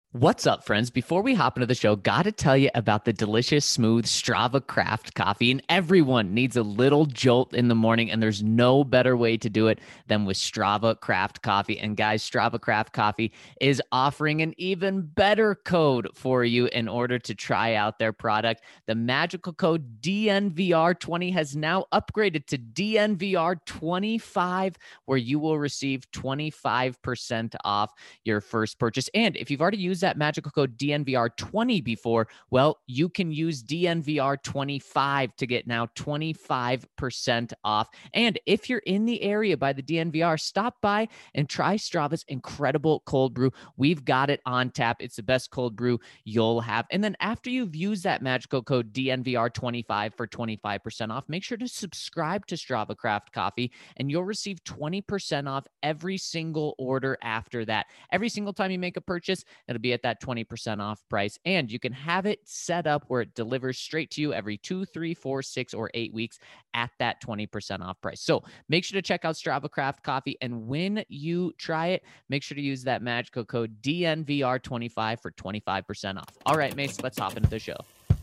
What's up, friends? Before we hop into the show, got to tell you about the delicious, smooth Strava Craft coffee. And everyone needs a little jolt in the morning, and there's no better way to do it than with Strava Craft coffee. And guys, Strava Craft coffee is offering an even better code for you in order to try out their product. The magical code DNVR20 has now upgraded to DNVR25, where you will receive 25% off your first purchase. And if you've already used that magical code DNVR20 before, well, you can use DNVR25 to get now 25% off. And if you're in the area by the DNVR, stop by and try Strava's incredible cold brew. We've got it on tap. It's the best cold brew you'll have. And then after you've used that magical code DNVR25 for 25% off, make sure to subscribe to Strava Craft Coffee and you'll receive 20% off every single order after that. Every single time you make a purchase, it'll be at that 20% off price. And you can have it set up where it delivers straight to you every 2, 3, 4, 6, or 8 weeks at that 20% off price. So make sure to check out Strava Craft Coffee. And when you try it, make sure to use that magical code DNVR25 for 25% off. All right, Mace, let's hop into the show.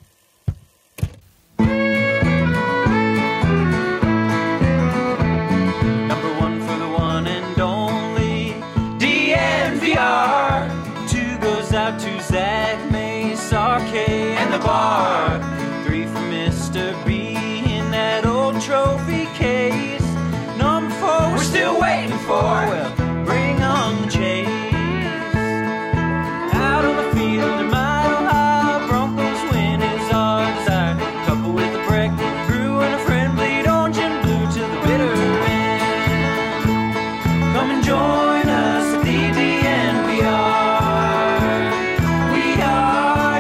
Number one for the one and only DNVR. Two goes out to Zach, Mace, RK, and the bar. Three for Mr. B in that old trophy case. Number four, we're still waiting for. Well, bring on the chase. Out on the field in Mile High, Broncos win is our desire. Couple with a break, brew and a friend, bleed orange and blue to the bitter end. Come and join us at the DNVR. We are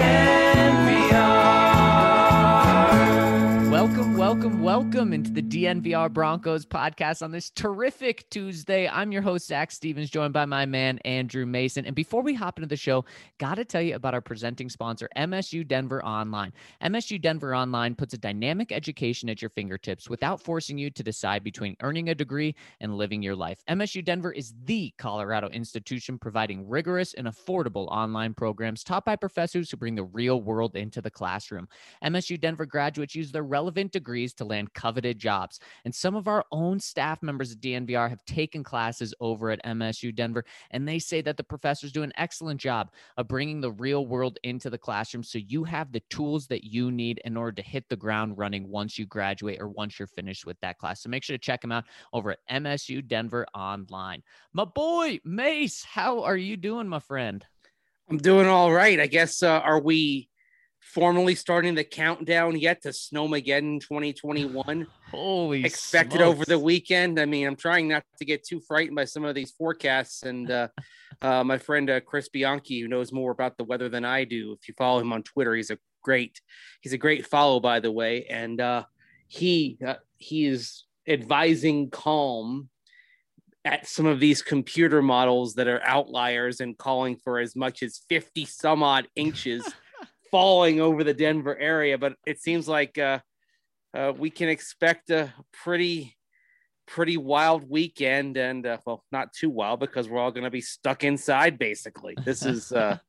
DNVR. Welcome into the DNVR Broncos podcast on this terrific Tuesday. I'm your host, Zach Stevens, joined by my man, Andrew Mason. And before we hop into the show, got to tell you about our presenting sponsor, MSU Denver Online. MSU Denver Online puts a dynamic education at your fingertips without forcing you to decide between earning a degree and living your life. MSU Denver is the Colorado institution providing rigorous and affordable online programs taught by professors who bring the real world into the classroom. MSU Denver graduates use their relevant degrees to land coveted jobs. And some of our own staff members at DNVR have taken classes over at MSU Denver, and they say that the professors do an excellent job of bringing the real world into the classroom so you have the tools that you need in order to hit the ground running once you graduate or once you're finished with that class. So make sure to check them out over at MSU Denver Online. My boy, Mace, how are you doing, my friend? I'm doing all right. I guess, are we formally starting the countdown yet to Snowmageddon 2021? Holy expected smokes. over the weekend. I mean, I'm trying not to get too frightened by some of these forecasts. And my friend Chris Bianchi, who knows more about the weather than I do, if you follow him on Twitter, he's a great follow, by the way. And he is advising calm at some of these computer models that are outliers and calling for as much as 50 some odd inches falling over the Denver area. But it seems like we can expect a pretty wild weekend, and well, not too wild because we're all going to be stuck inside basically. This is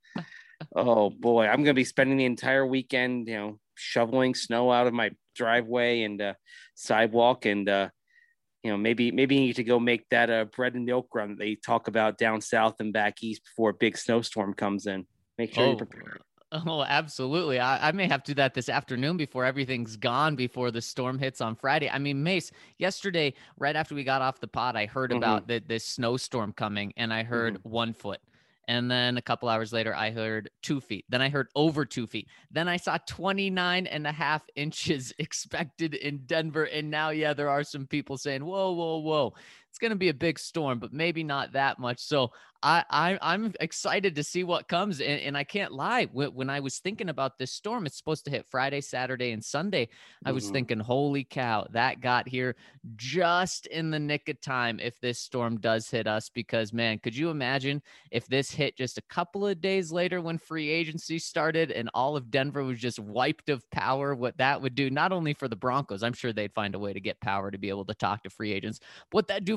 oh boy, I'm going to be spending the entire weekend, shoveling snow out of my driveway and sidewalk, and maybe you need to go make that bread and milk run that they talk about down south and back east before a big snowstorm comes in. Make sure you're prepared. Oh, absolutely. I may have to do that this afternoon before everything's gone, before the storm hits on Friday. I mean, Mace, yesterday, right after we got off the pod, I heard about this snowstorm coming, and I heard 1 foot. And then a couple hours later, I heard 2 feet. Then I heard over 2 feet. Then I saw 29.5 inches expected in Denver. And now, there are some people saying, whoa. It's going to be a big storm, but maybe not that much. So I'm excited to see what comes. And I can't lie. When I was thinking about this storm, it's supposed to hit Friday, Saturday, and Sunday. I was thinking, holy cow, that got here just in the nick of time if this storm does hit us. Because, man, could you imagine if this hit just a couple of days later when free agency started and all of Denver was just wiped of power, what that would do, not only for the Broncos, I'm sure they'd find a way to get power to be able to talk to free agents, but what that'd do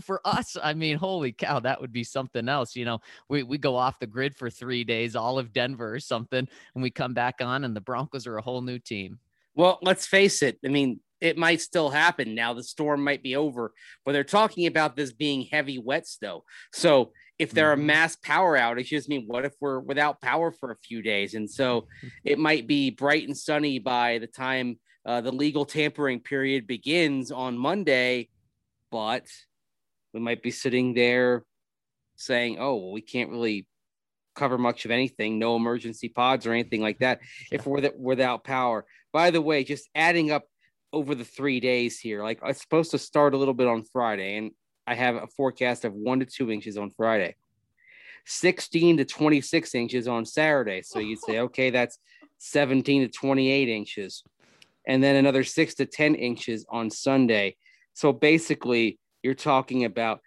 for us, I mean, holy cow, that would be something else. You know, we go off the grid for 3 days, all of Denver or something, and we come back on and the Broncos are a whole new team. Well, let's face it. I mean, it might still happen now. The storm might be over, but they're talking about this being heavy, wet snow. So if there are mass power outages, I mean, what if we're without power for a few days? And so it might be bright and sunny by the time the legal tampering period begins on Monday, but we might be sitting there saying, oh, well, we can't really cover much of anything, no emergency pods or anything like that if we're without power. By the way, just adding up over the 3 days here, like it's supposed to start a little bit on Friday, and I have a forecast of 1 to 2 inches on Friday, 16 to 26 inches on Saturday. So you'd say, okay, that's 17 to 28 inches. And then another 6 to 10 inches on Sunday. So basically, you're talking about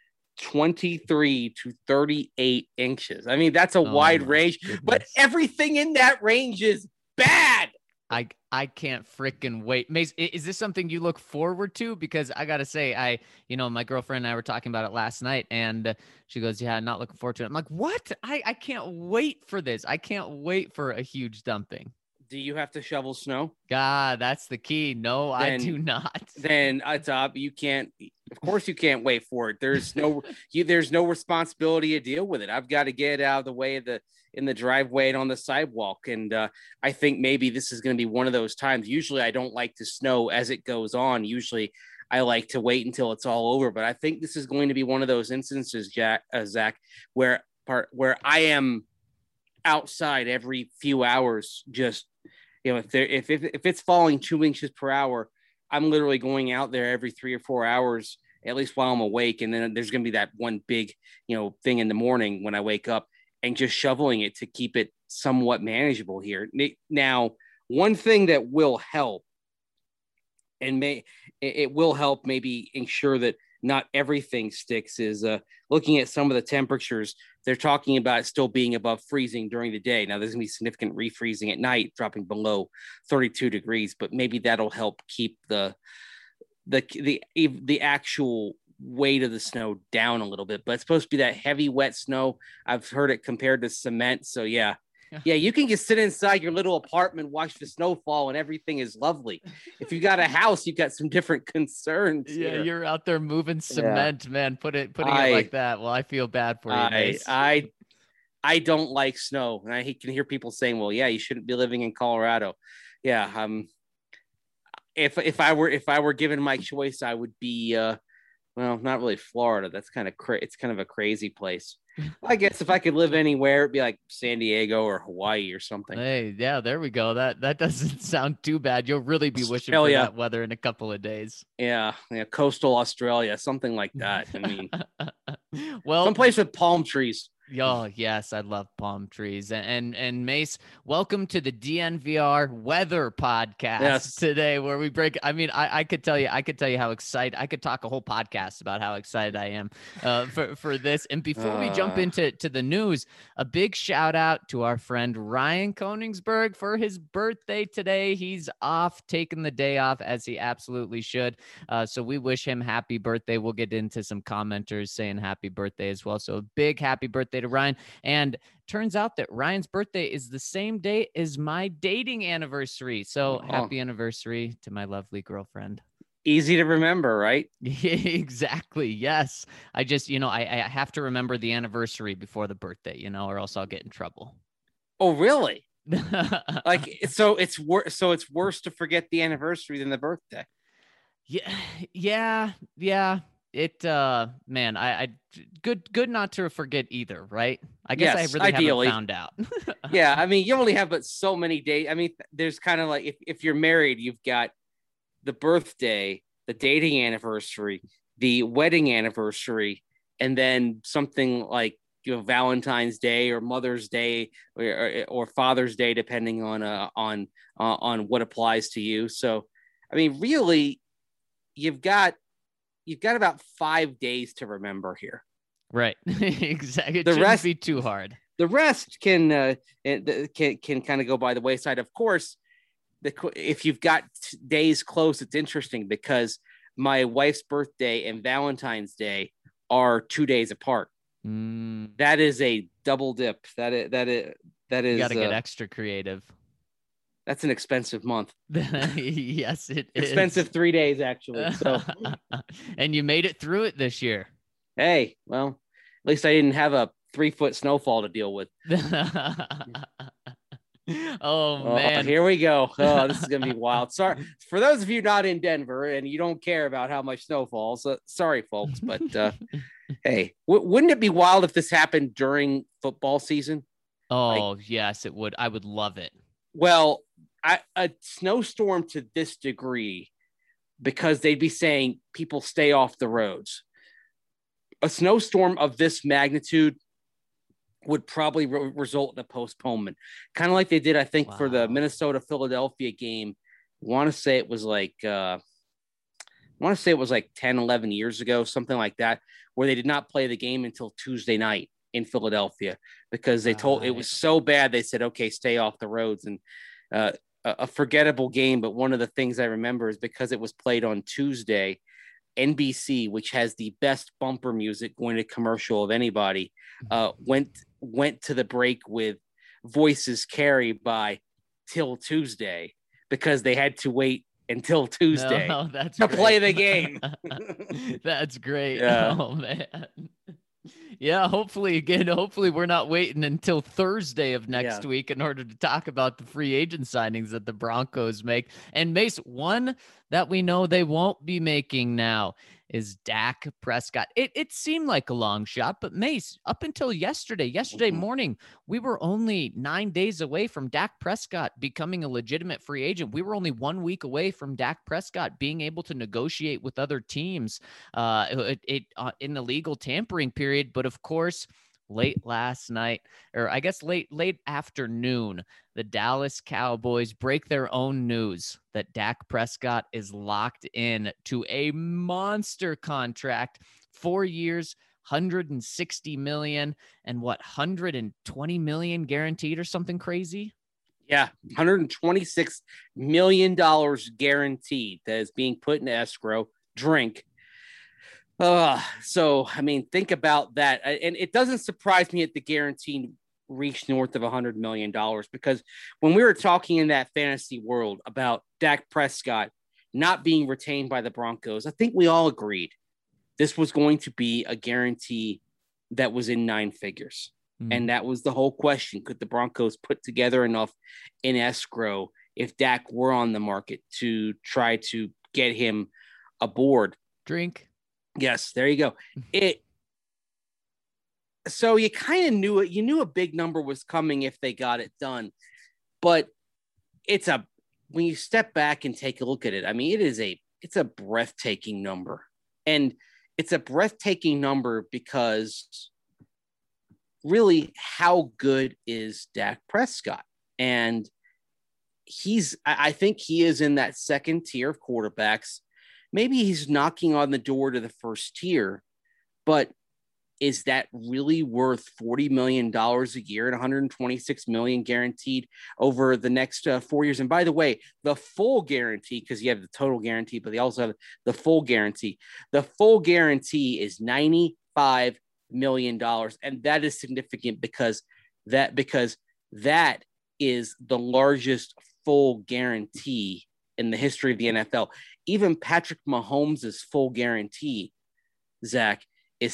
23 to 38 inches. I mean, that's a wide range, but everything in that range is bad. I can't freaking wait. Mace, is this something you look forward to? Because I got to say, my girlfriend and I were talking about it last night, and she goes, yeah, I'm not looking forward to it. I'm like, what? I can't wait for this. I can't wait for a huge dumping. Do you have to shovel snow? God, that's the key. No, I do not. Then you can't. Of course, you can't wait for it. There's no responsibility to deal with it. I've got to get out of the way in the driveway and on the sidewalk. And I think maybe this is going to be one of those times. Usually, I don't like to snow as it goes on. Usually, I like to wait until it's all over. But I think this is going to be one of those instances, Zach, where I am outside every few hours, just, you know, if it's falling 2 inches per hour, I'm literally going out there every 3 or 4 hours, at least while I'm awake. And then there's going to be that one big, thing in the morning when I wake up, and just shoveling it to keep it somewhat manageable here. Now, one thing that will help, and it will help maybe ensure that not everything sticks, is looking at some of the temperatures. They're talking about it still being above freezing during the day. Now, there's going to be significant refreezing at night, dropping below 32 degrees, but maybe that'll help keep the actual weight of the snow down a little bit. But it's supposed to be that heavy, wet snow. I've heard it compared to cement. So yeah, you can just sit inside your little apartment, watch the snow fall, and everything is lovely. If you got a house, you've got some different concerns. Yeah, here. You're out there moving cement, man. Putting it like that. Well, I feel bad for you, Mace. I don't like snow, and I can hear people saying, "Well, yeah, you shouldn't be living in Colorado." Yeah, if I were given my choice, I would be well, not really Florida. That's kind of it's kind of a crazy place. I guess if I could live anywhere, it'd be like San Diego or Hawaii or something. Hey, yeah, there we go. That doesn't sound too bad. You'll really be wishing for that weather in a couple of days. Yeah, coastal Australia, something like that. I mean, well, someplace with palm trees. Oh, yes, I love palm trees. And Mace, welcome to the DNVR weather podcast today, where we break. I mean, I could tell you how excited. I could talk a whole podcast about how excited I am for this. And before we jump into the news, a big shout out to our friend Ryan Koenigsberg for his birthday today. He's off, taking the day off, as he absolutely should. So we wish him happy birthday. We'll get into some commenters saying happy birthday as well. So a big happy birthday to Ryan. And turns out that Ryan's birthday is the same day as my dating anniversary. So happy anniversary to my lovely girlfriend. Easy to remember, right? Exactly. Yes. I just, I have to remember the anniversary before the birthday, or else I'll get in trouble. Oh, really? So it's worse to forget the anniversary than the birthday. Yeah. It man, I good not to forget either, right? I guess I really haven't found out. Yeah, I mean, you only have but so many days. I mean, there's kind of like if you're married, you've got the birthday, the dating anniversary, the wedding anniversary, and then something like Valentine's Day or Mother's Day or Father's Day, depending on what applies to you. So, I mean, really, you've got about 5 days to remember here. Right. Exactly. It shouldn't be too hard. The rest can kind of go by the wayside. Of course, if you've got days close, it's interesting because my wife's birthday and Valentine's Day are 2 days apart. Mm. That is a double dip. That is You got to get extra creative. That's an expensive month. Yes, it is. Expensive 3 days, actually. So, and you made it through it this year. Hey, well, at least I didn't have a 3-foot snowfall to deal with. Oh, man. Here we go. Oh, this is going to be wild. Sorry. For those of you not in Denver and you don't care about how much snow falls, sorry, folks. But hey, wouldn't it be wild if this happened during football season? Oh, yes, it would. I would love it. Well, a snowstorm to this degree, because they'd be saying people stay off the roads. A snowstorm of this magnitude would probably result in a postponement, kind of like they did, I think, for the Minnesota-Philadelphia game. I want to say it was like 10, 11 years ago, something like that, where they did not play the game until Tuesday night in Philadelphia because they told it was so bad. They said, okay, stay off the roads. And a forgettable game. But one of the things I remember is because it was played on Tuesday, NBC, which has the best bumper music going to commercial of anybody, went to the break with Voices Carry by Till Tuesday because they had to wait until Tuesday to play the game. That's great. Yeah. Oh, man. Yeah, hopefully we're not waiting until Thursday of next week in order to talk about the free agent signings that the Broncos make. And Mace, one that we know they won't be making now is Dak Prescott. It seemed like a long shot, but Mace, up until yesterday morning, we were only 9 days away from Dak Prescott becoming a legitimate free agent. We were only 1 week away from Dak Prescott being able to negotiate with other teams in the legal tampering period. But of course, late last night, or I guess late afternoon, the Dallas Cowboys break their own news that Dak Prescott is locked in to a monster contract, 4 years, $160 million, and 120 million guaranteed or something crazy. Yeah, $126 million guaranteed that is being put in escrow. So, I mean, think about that. And it doesn't surprise me that the guarantee reached north of $100 million because when we were talking in that fantasy world about Dak Prescott not being retained by the Broncos, I think we all agreed this was going to be a guarantee that was in 9 figures. And that was the whole question. Could the Broncos put together enough in escrow if Dak were on the market to try to get him aboard? Drink. Yes, there you go. So you kind of knew it. You knew a big number was coming if they got it done. But when you step back and take a look at it, I mean, it's a breathtaking number. And it's a breathtaking number because really, how good is Dak Prescott? And I think he is in that second tier of quarterbacks. Maybe he's knocking on the door to the first tier, but is that really worth $40 million a year and $126 million guaranteed over the next 4 years? And by the way, the full guarantee, because you have the total guarantee, but they also have the full guarantee. The full guarantee is $95 million. And that is significant because that is the largest full guarantee in the history of the NFL. Even Patrick Mahomes' full guarantee, Zach, is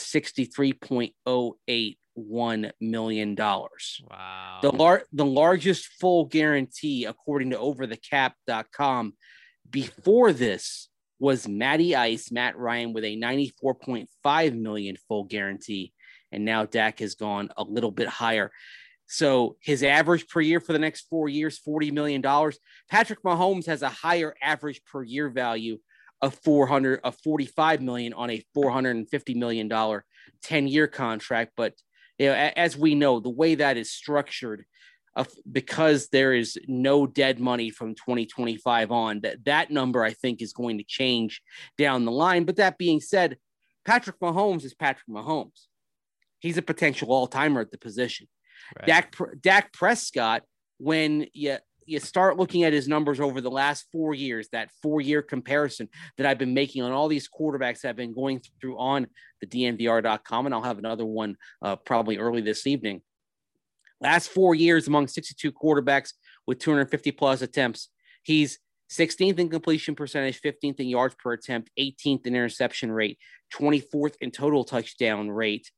$63.081 million. Wow. The largest full guarantee, according to overthecap.com, before this was Matt Ryan, with a $94.5 million full guarantee. And now Dak has gone a little bit higher. So his average per year for the next 4 years, $40 million. Patrick Mahomes has a higher average per year value of $45 million on a $450 million 10-year contract. But as we know, the way that is structured, because there is no dead money from 2025 on, that number I think is going to change down the line. But that being said, Patrick Mahomes is Patrick Mahomes. He's a potential all-timer at the position. Right. Dak Prescott, when you you start looking at his numbers over the last 4 years, that 4-year comparison that I've been making on all these quarterbacks that I've been going through on the DNVR.com, and I'll have another one probably early this evening. Last 4 years among 62 quarterbacks with 250 plus attempts, he's 16th in completion percentage, 15th in yards per attempt, 18th in interception rate, 24th in total touchdown rate.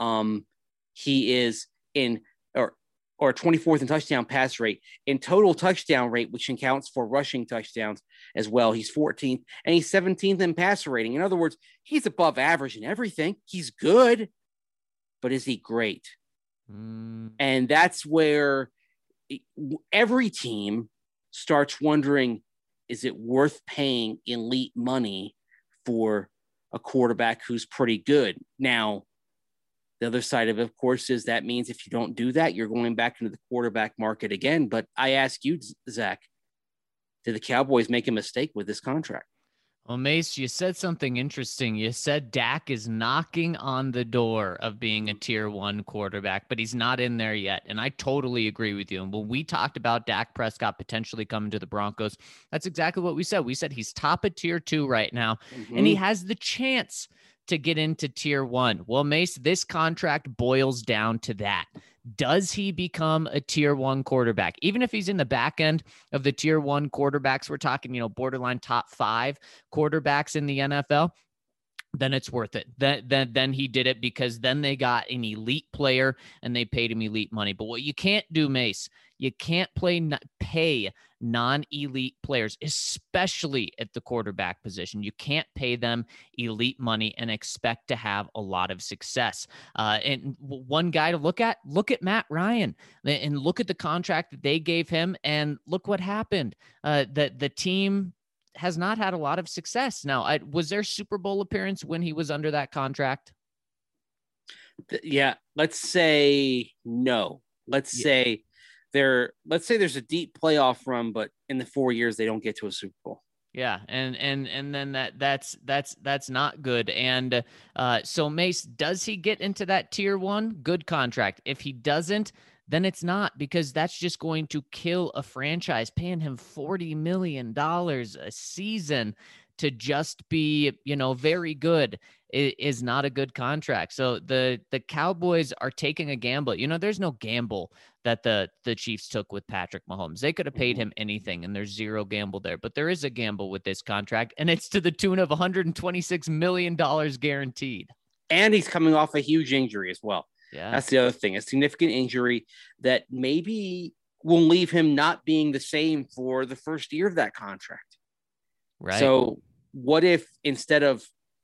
He is in or 24th in touchdown pass rate. In total touchdown rate, which accounts for rushing touchdowns as well, he's 14th, and he's 17th in passer rating. In other words, he's above average in everything. He's good, but is he great? And that's where every team starts wondering, is it worth paying elite money for a quarterback who's pretty good? Now, the other side of it, of course, is that means if you don't do that, you're going back into the quarterback market again. But I ask you, Zach, did the Cowboys make a mistake with this contract? Well, Mace, you said something interesting. You said Dak is knocking on the door of being a tier 1 quarterback, but he's not in there yet. And I totally agree with you. And when we talked about Dak Prescott potentially coming to the Broncos, that's exactly what we said. We said he's top of tier 2 right now, and he has the chance to get into tier 1. Well, Mace, this contract boils down to that. Does he become a tier 1 quarterback? Even if he's in the back end of the tier 1 quarterbacks, we're talking, borderline top 5 quarterbacks in the NFL, then it's worth it. Then he did it because then they got an elite player and they paid him elite money. But what you can't do, Mace, you can't pay non-elite players, especially at the quarterback position. You can't pay them elite money and expect to have a lot of success. And one guy to look at Matt Ryan and look at the contract that they gave him and look what happened. The team has not had a lot of success. Now, was there Super Bowl appearance when he was under that contract? Yeah, let's say no. Let's say there's a deep playoff run, but in the 4 years they don't get to a Super Bowl. Yeah, and then that's not good. And so Mace, does he get into that tier 1? Good contract. If he doesn't, then it's not, because that's just going to kill a franchise. Paying him $40 million a season to just be, very good is not a good contract. So the Cowboys are taking a gamble. There's no gamble that the Chiefs took with Patrick Mahomes. They could have paid him anything, and there's zero gamble there. But there is a gamble with this contract, and it's to the tune of $126 million guaranteed. And he's coming off a huge injury as well. Yeah, that's the other thing, a significant injury that maybe will leave him not being the same for the first year of that contract. Right. So what if instead of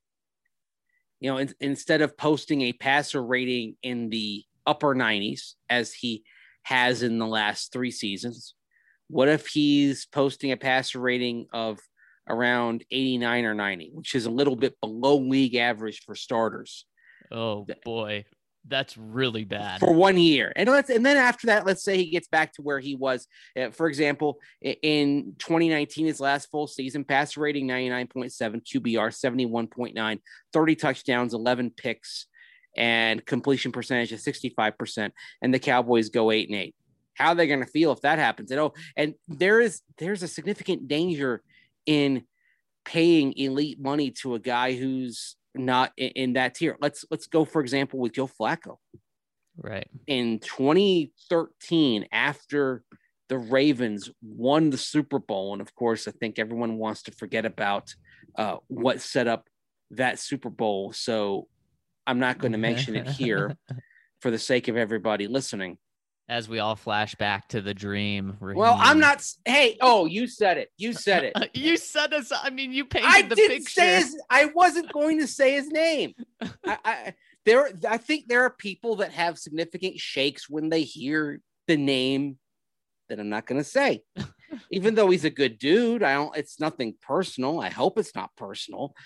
posting a passer rating in the upper 90s as he has in the last 3 seasons, what if he's posting a passer rating of around 89 or 90, which is a little bit below league average for starters? Oh boy. That's really bad for 1 year. And then after that, let's say he gets back to where he was. For example, in 2019, his last full season, passer rating 99.7, QBR 71.9, 30 touchdowns, 11 picks, and completion percentage of 65%. And the Cowboys go 8-8. How are they going to feel if that happens? And there's a significant danger in paying elite money to a guy who's not in that tier. Let's go, for example, with Joe Flacco. Right. In 2013, after the Ravens won the Super Bowl, and of course, I think everyone wants to forget about what set up that Super Bowl, so I'm not going to mention it here for the sake of everybody listening. As we all flash back to the dream. Raheem. Well, I'm not. Hey, you said it. You said it. You said us. I mean, you painted the picture. I wasn't going to say his name. I think there are people that have significant shakes when they hear the name that I'm not going to say. Even though he's a good dude, it's nothing personal. I hope it's not personal.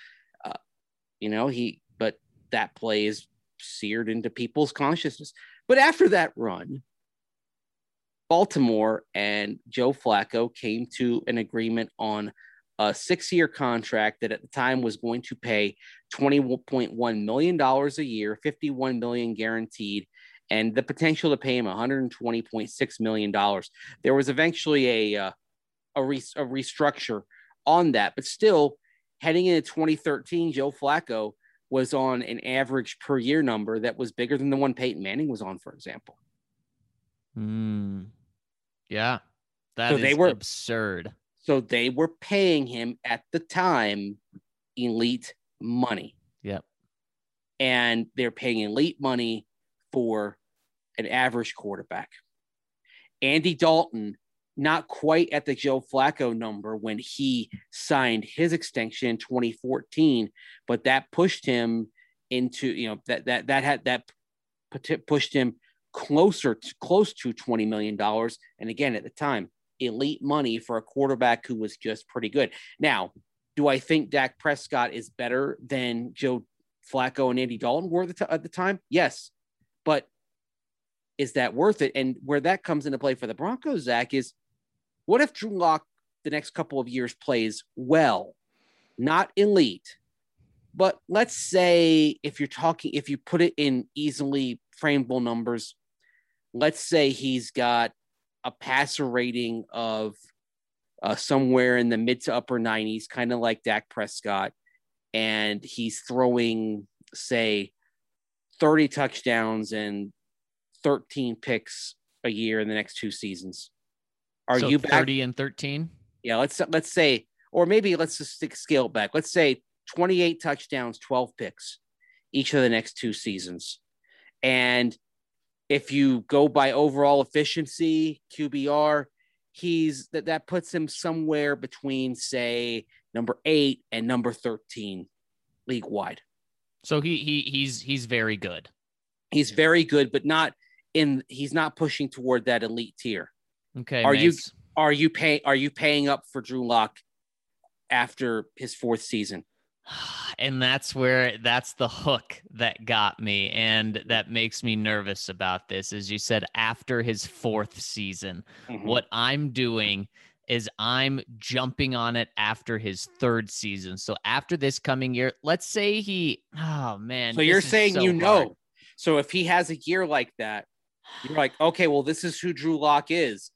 But that play is seared into people's consciousness. But after that run, Baltimore and Joe Flacco came to an agreement on a 6-year contract that at the time was going to pay $20.1 million a year, $51 million guaranteed, and the potential to pay him $120.6 million. There was eventually a restructure on that, but still, heading into 2013, Joe Flacco was on an average per year number that was bigger than the one Peyton Manning was on, for example. Yeah, that is absurd. So they were paying him at the time elite money. Yep. And they're paying elite money for an average quarterback. Andy Dalton, not quite at the Joe Flacco number when he signed his extension in 2014, but that pushed him into, that pushed him close to $20 million. And again, at the time, elite money for a quarterback who was just pretty good. Now, do I think Dak Prescott is better than Joe Flacco and Andy Dalton were at the time? Yes. But is that worth it? And where that comes into play for the Broncos, Zach, is what if Drew Lock the next couple of years plays well, not elite, but let's say if you put it in easily frameable numbers, let's say he's got a passer rating of somewhere in the mid to upper 90s, kind of like Dak Prescott, and he's throwing, say, 30 touchdowns and 13 picks a year in the next 2 seasons. Are you back? 30 and 13? Yeah, let's say, or maybe let's just scale it back. Let's say 28 touchdowns, 12 picks each of the next 2 seasons. And if you go by overall efficiency, QBR, that puts him somewhere between, say, number 8 and number 13 league wide. So he's very good. He's very good, but he's not pushing toward that elite tier. Okay. Are you paying up for Drew Lock after his 4th season? And that's the hook that got me, and that makes me nervous about this. As you said, after his 4th season, what I'm doing is I'm jumping on it after his 3rd season. So after this coming year, let's say so you're saying, hard. So if he has a year like that, you're like, okay, well, this is who Drew Lock is.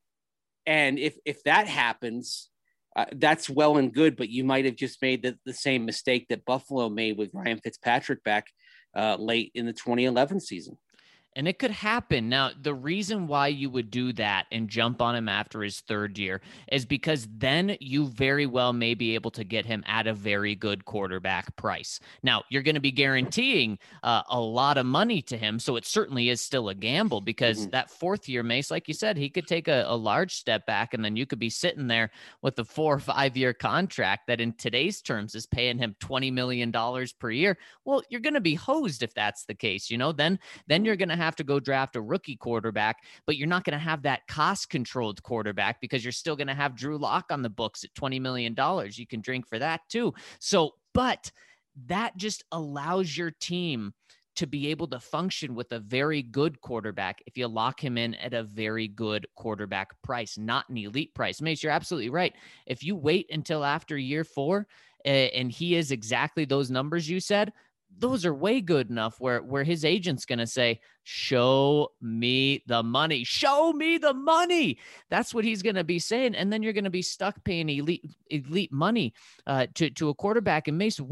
And if that happens, that's well and good, but you might have just made the same mistake that Buffalo made with Ryan Fitzpatrick back late in the 2011 season. And it could happen. Now, the reason why you would do that and jump on him after his 3rd year is because then you very well may be able to get him at a very good quarterback price. Now, you're going to be guaranteeing a lot of money to him, so it certainly is still a gamble because that 4th year, Mace, like you said, he could take a large step back, and then you could be sitting there with a 4 or 5 year contract that in today's terms is paying him $20 million per year. Well, you're going to be hosed if that's the case. Then you're going to have to go draft a rookie quarterback, but you're not going to have that cost-controlled quarterback because you're still going to have Drew Lock on the books at $20 million. You can drink for that too. So, but that just allows your team to be able to function with a very good quarterback if you lock him in at a very good quarterback price, not an elite price. Mace, you're absolutely right. If you wait until after year 4 and he is exactly those numbers you said, those are way good enough where his agent's going to say, show me the money. Show me the money. That's what he's going to be saying. And then you're going to be stuck paying elite money to a quarterback. And Mace,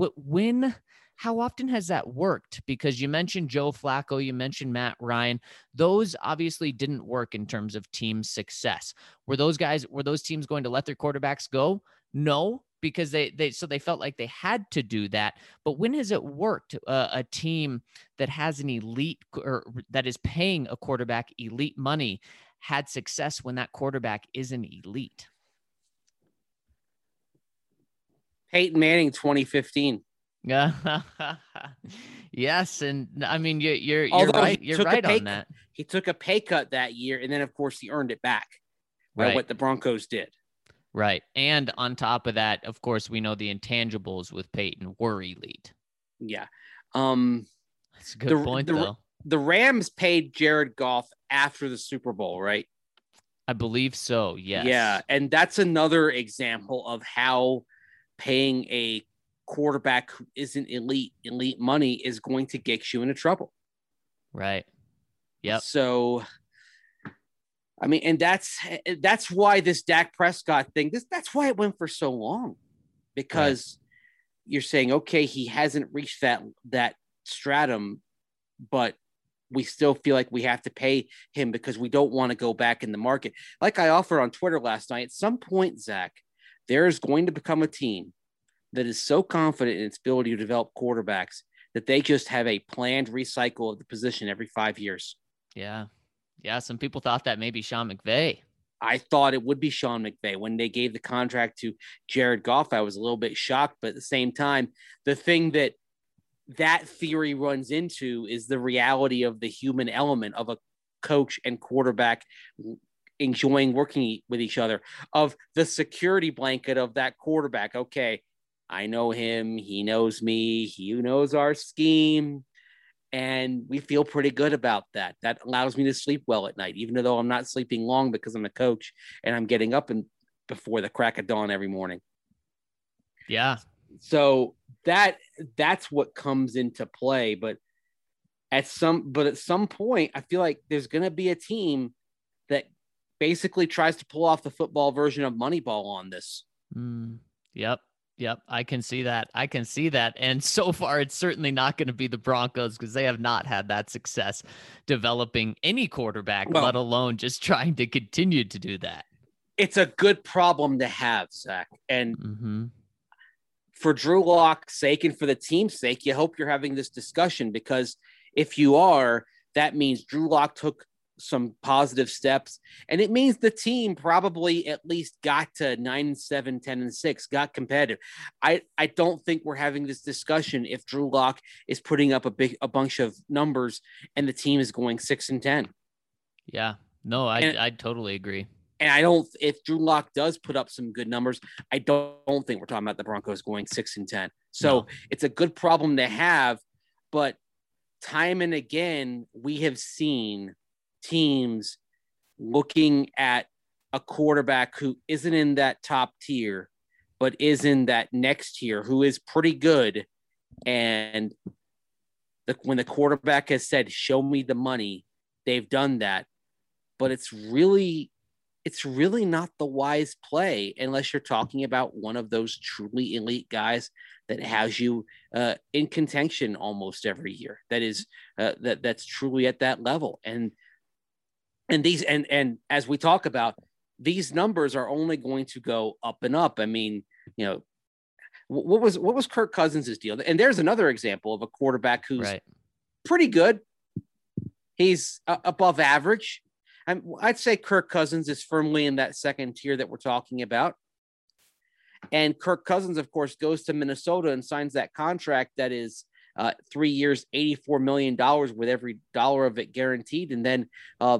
how often has that worked? Because you mentioned Joe Flacco, you mentioned Matt Ryan. Those obviously didn't work in terms of team success. Were those teams going to let their quarterbacks go? No, because they felt like they had to do that. But when has it worked? A team that has an elite or that is paying a quarterback elite money had success when that quarterback isn't elite. Peyton Manning, 2015. Yes, and I mean you're right. You're right on that. He took a pay cut that year, and then of course he earned it back. Right, what the Broncos did. Right, and on top of that, of course, we know the intangibles with Peyton were elite. Yeah, that's a good point though. The Rams paid Jared Goff after the Super Bowl, right? I believe so. Yes. Yeah, and that's another example of how paying a quarterback who isn't elite money is going to get you into trouble. Right. Yep. So, I mean, and that's why this Dak Prescott thing, that's why it went for so long, because you're saying, okay, he hasn't reached that stratum, but we still feel like we have to pay him because we don't want to go back in the market. Like I offered on Twitter last night, at some point, Zach, there is going to become a team that is so confident in its ability to develop quarterbacks that they just have a planned recycle of the position every 5 years. Yeah. Yeah. Some people thought that maybe Sean McVay. I thought it would be Sean McVay. When they gave the contract to Jared Goff, I was a little bit shocked, but at the same time, the thing that theory runs into is the reality of the human element of a coach and quarterback enjoying working with each other, of the security blanket of that quarterback. Okay, I know him. He knows me. He knows our scheme. And we feel pretty good about that. That allows me to sleep well at night, even though I'm not sleeping long because I'm a coach and I'm getting up before the crack of dawn every morning. Yeah. So that's what comes into play. But at some point, I feel like there's going to be a team that basically tries to pull off the football version of Moneyball on this. Yep. Yep, I can see that. And so far, it's certainly not going to be the Broncos, because they have not had that success developing any quarterback, let alone just trying to continue to do that. It's a good problem to have, Zach. And for Drew Lock's sake and for the team's sake, you hope you're having this discussion, because if you are, that means Drew Lock took some positive steps, and it means the team probably at least got to 9-7, 10-6, got competitive. I don't think we're having this discussion if Drew Lock is putting up a bunch of numbers and the team is going 6-10. Yeah, no, I totally agree. And I don't, if Drew Lock does put up some good numbers, I don't think we're talking about the Broncos going 6-10. So It's a good problem to have, but time and again, we have seen teams looking at a quarterback who isn't in that top tier, but is in that next tier, who is pretty good. And when the quarterback has said, show me the money, they've done that. But it's really not the wise play unless you're talking about one of those truly elite guys that has you in contention almost every year. That is that's truly at that level. And as we talk about, these numbers are only going to go up and up. I mean, what was Kirk Cousins' deal? And there's another example of a quarterback who's pretty good. He's above average. I'd say Kirk Cousins is firmly in that second tier that we're talking about. And Kirk Cousins, of course, goes to Minnesota and signs that contract that is 3 years, $84 million, with every dollar of it guaranteed. And then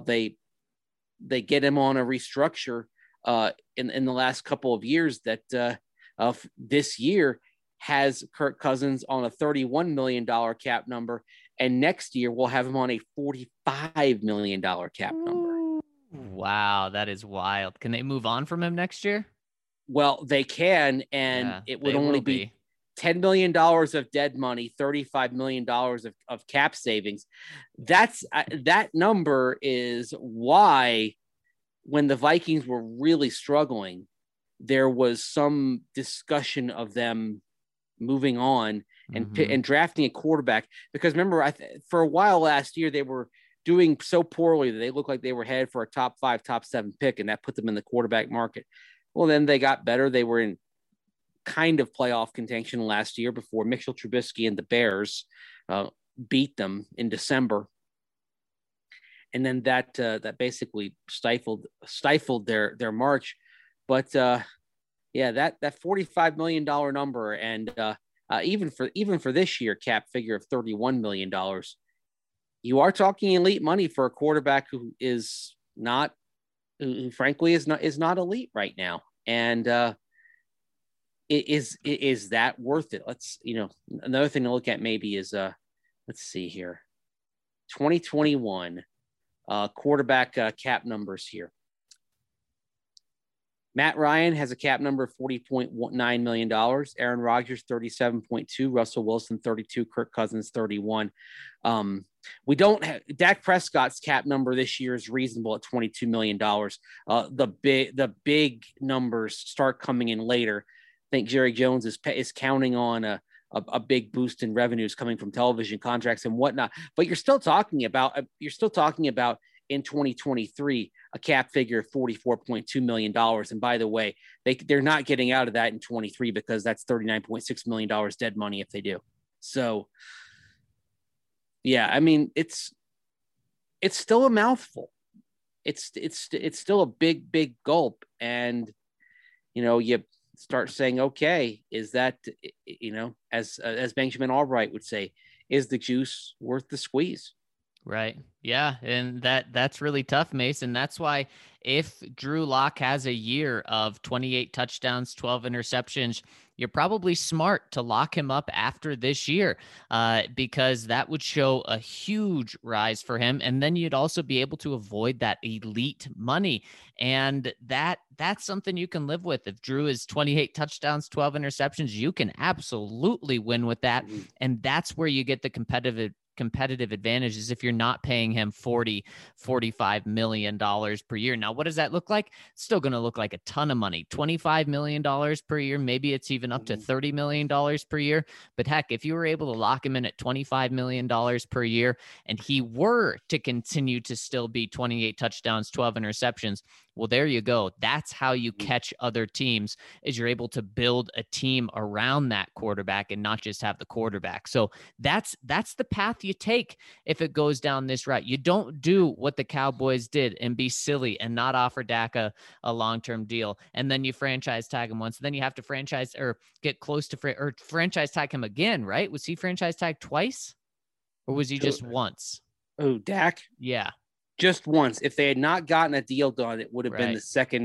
they get him on a restructure in the last couple of years that this year has Kirk Cousins on a $31 million cap number. And next year we'll have him on a $45 million cap number. Wow, that is wild. Can they move on from him next year? Well, they can, and it would only be $10 million of dead money, $35 million of cap savings. That number is why when the Vikings were really struggling, there was some discussion of them moving on and drafting a quarterback. Because remember, for a while last year, they were doing so poorly that they looked like they were headed for a top 5, top 7 pick, and that put them in the quarterback market. Well, then they got better. They were in kind of playoff contention last year before Mitchell Trubisky and the Bears beat them in December. And then that basically stifled their march. But that $45 million number, and even for this year, cap figure of $31 million, you are talking elite money for a quarterback who frankly is not elite right now. And is that worth it? Another thing to look at maybe is let's see here, 2021 quarterback cap numbers here. Matt Ryan has a cap number of $40.9 million. Aaron Rodgers, $37.2. Russell Wilson, $32. Kirk Cousins, $31. we don't have Dak Prescott's cap number this year is reasonable at $22 million. The big numbers start coming in later. I think Jerry Jones is counting on a big boost in revenues coming from television contracts and whatnot. But you're still talking about in 2023 a cap figure of $44.2 million. And by the way, they're not getting out of that in 23 because that's $39.6 million dead money if they do. So yeah, I mean, it's still a mouthful. It's still a big gulp. And, you start saying, okay, is that, as Benjamin Albright would say, is the juice worth the squeeze? Right. Yeah. And that's really tough, Mason. That's why if Drew Lock has a year of 28 touchdowns, 12 interceptions, you're probably smart to lock him up after this year because that would show a huge rise for him. And then you'd also be able to avoid that elite money. And that's something you can live with. If Drew is 28 touchdowns, 12 interceptions, you can absolutely win with that. Mm-hmm. And that's where you get the competitive advantage is if you're not paying him $45 million per year. Now, what does that look like? It's still going to look like a ton of money, $25 million per year. Maybe it's even up to $30 million per year. But heck, if you were able to lock him in at $25 million per year and he were to continue to still be 28 touchdowns, 12 interceptions, well, there you go. That's how you catch other teams is you're able to build a team around that quarterback and not just have the quarterback. So that's the path you take if it goes down this route. You don't do what the Cowboys did and be silly and not offer Dak a long-term deal. And then you franchise tag him once. Then you have to franchise or get close to franchise tag him again, right? Was he franchise tagged twice or was he just once? Oh, Dak? Yeah. Just once. If they had not gotten a deal done, it would have been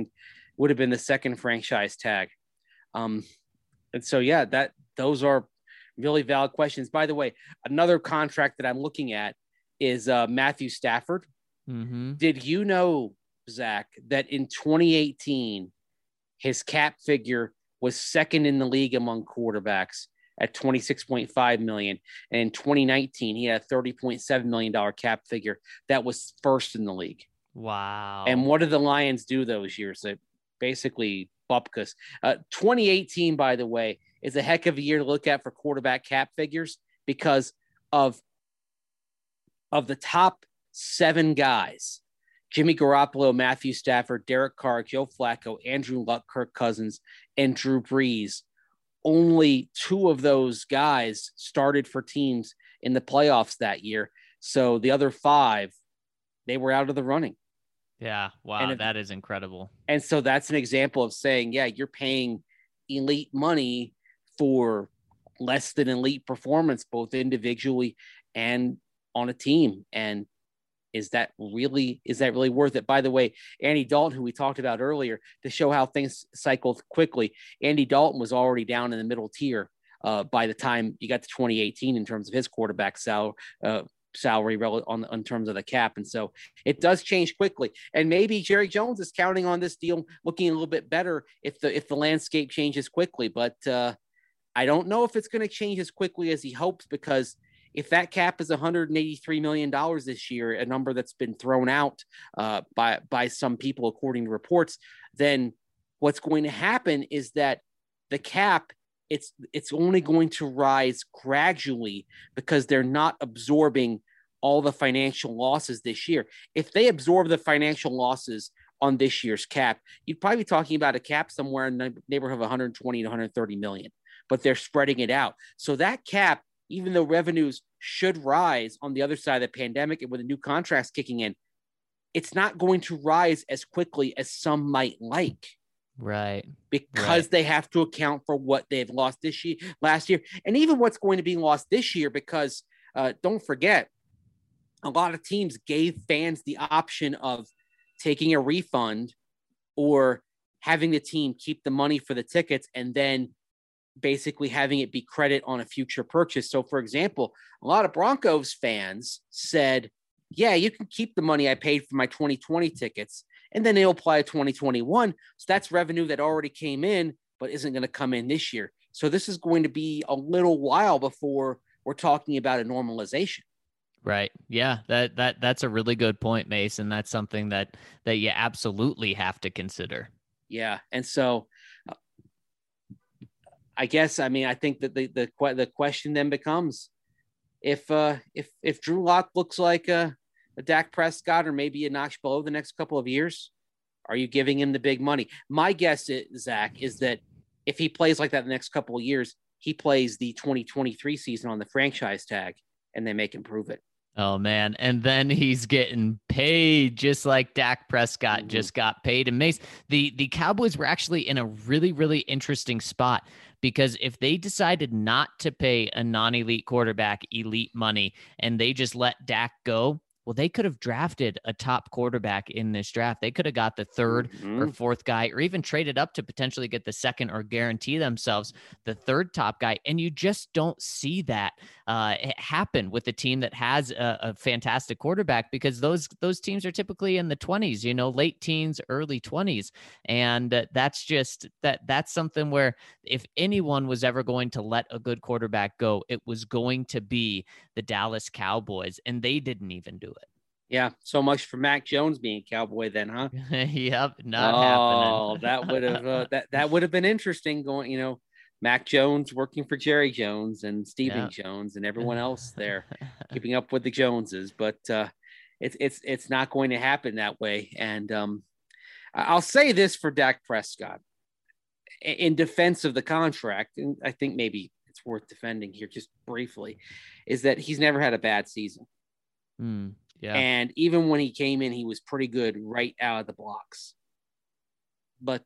the second franchise tag. And so, yeah, those are really valid questions. By the way, another contract that I'm looking at is Matthew Stafford. Mm-hmm. Did you know, Zach, that in 2018, his cap figure was second in the league among quarterbacks at $26.5 million. And in 2019, he had a $30.7 million cap figure. That was first in the league. Wow. And what did the Lions do those years? They basically bupkis. 2018, by the way, is a heck of a year to look at for quarterback cap figures because of the top 7 guys: Jimmy Garoppolo, Matthew Stafford, Derek Carr, Joe Flacco, Andrew Luck, Kirk Cousins, and Drew Brees. Only 2 of those guys started for teams in the playoffs that year. So the other 5, they were out of the running. Yeah. Wow. That is incredible. And so that's an example of saying, yeah, you're paying elite money for less than elite performance, both individually and on a team. And is that really worth it? By the way, Andy Dalton, who we talked about earlier, to show how things cycle quickly, Andy Dalton was already down in the middle tier by the time you got to 2018 in terms of his quarterback salary in terms of the cap. And so it does change quickly. And maybe Jerry Jones is counting on this deal looking a little bit better if the landscape changes quickly. But I don't know if it's going to change as quickly as he hopes, because if that cap is $183 million this year, a number that's been thrown out by some people, according to reports, then what's going to happen is that the cap, it's only going to rise gradually because they're not absorbing all the financial losses this year. If they absorb the financial losses on this year's cap, you'd probably be talking about a cap somewhere in the neighborhood of 120 to 130 million, but they're spreading it out. So that cap, even though revenues should rise on the other side of the pandemic and with the new contracts kicking in, it's not going to rise as quickly as some might like. Right. Because they have to account for what they've lost last year, and even what's going to be lost this year, because don't forget, a lot of teams gave fans the option of taking a refund or having the team keep the money for the tickets and then basically having it be credit on a future purchase. So, for example, a lot of Broncos fans said, yeah, you can keep the money I paid for my 2020 tickets, and then they'll apply to 2021. So that's revenue that already came in, but isn't going to come in this year. So this is going to be a little while before we're talking about a normalization. Right. Yeah. That's a really good point, Mason. That's something that you absolutely have to consider. Yeah. And so I guess, I mean, I think that the question then becomes if Drew Lock looks like a Dak Prescott or maybe a notch below the next couple of years, are you giving him the big money? My guess, Zach, is that if he plays like that the next couple of years, he plays the 2023 season on the franchise tag and they make him prove it. Oh man. And then he's getting paid just like Dak Prescott just got paid. And Mace, the Cowboys were actually in a really, really interesting spot because if they decided not to pay a non-elite quarterback elite money and they just let Dak go, well, they could have drafted a top quarterback in this draft. They could have got the third or fourth guy, or even traded up to potentially get the second or guarantee themselves the third top guy. And you just don't see that happen with a team that has a fantastic quarterback, because those teams are typically in the 20s, late teens, early 20s. And that's something where if anyone was ever going to let a good quarterback go, it was going to be the Dallas Cowboys, and they didn't even do it. Yeah, so much for Mac Jones being a Cowboy then, huh? Yep, not happening. Oh, that would have that would have been interesting going, Mac Jones working for Jerry Jones and Stephen Jones and everyone else there, keeping up with the Joneses. But it's not going to happen that way. And I'll say this for Dak Prescott, in defense of the contract, and I think maybe it's worth defending here just briefly, is that he's never had a bad season. Yeah. And even when he came in, he was pretty good right out of the blocks. But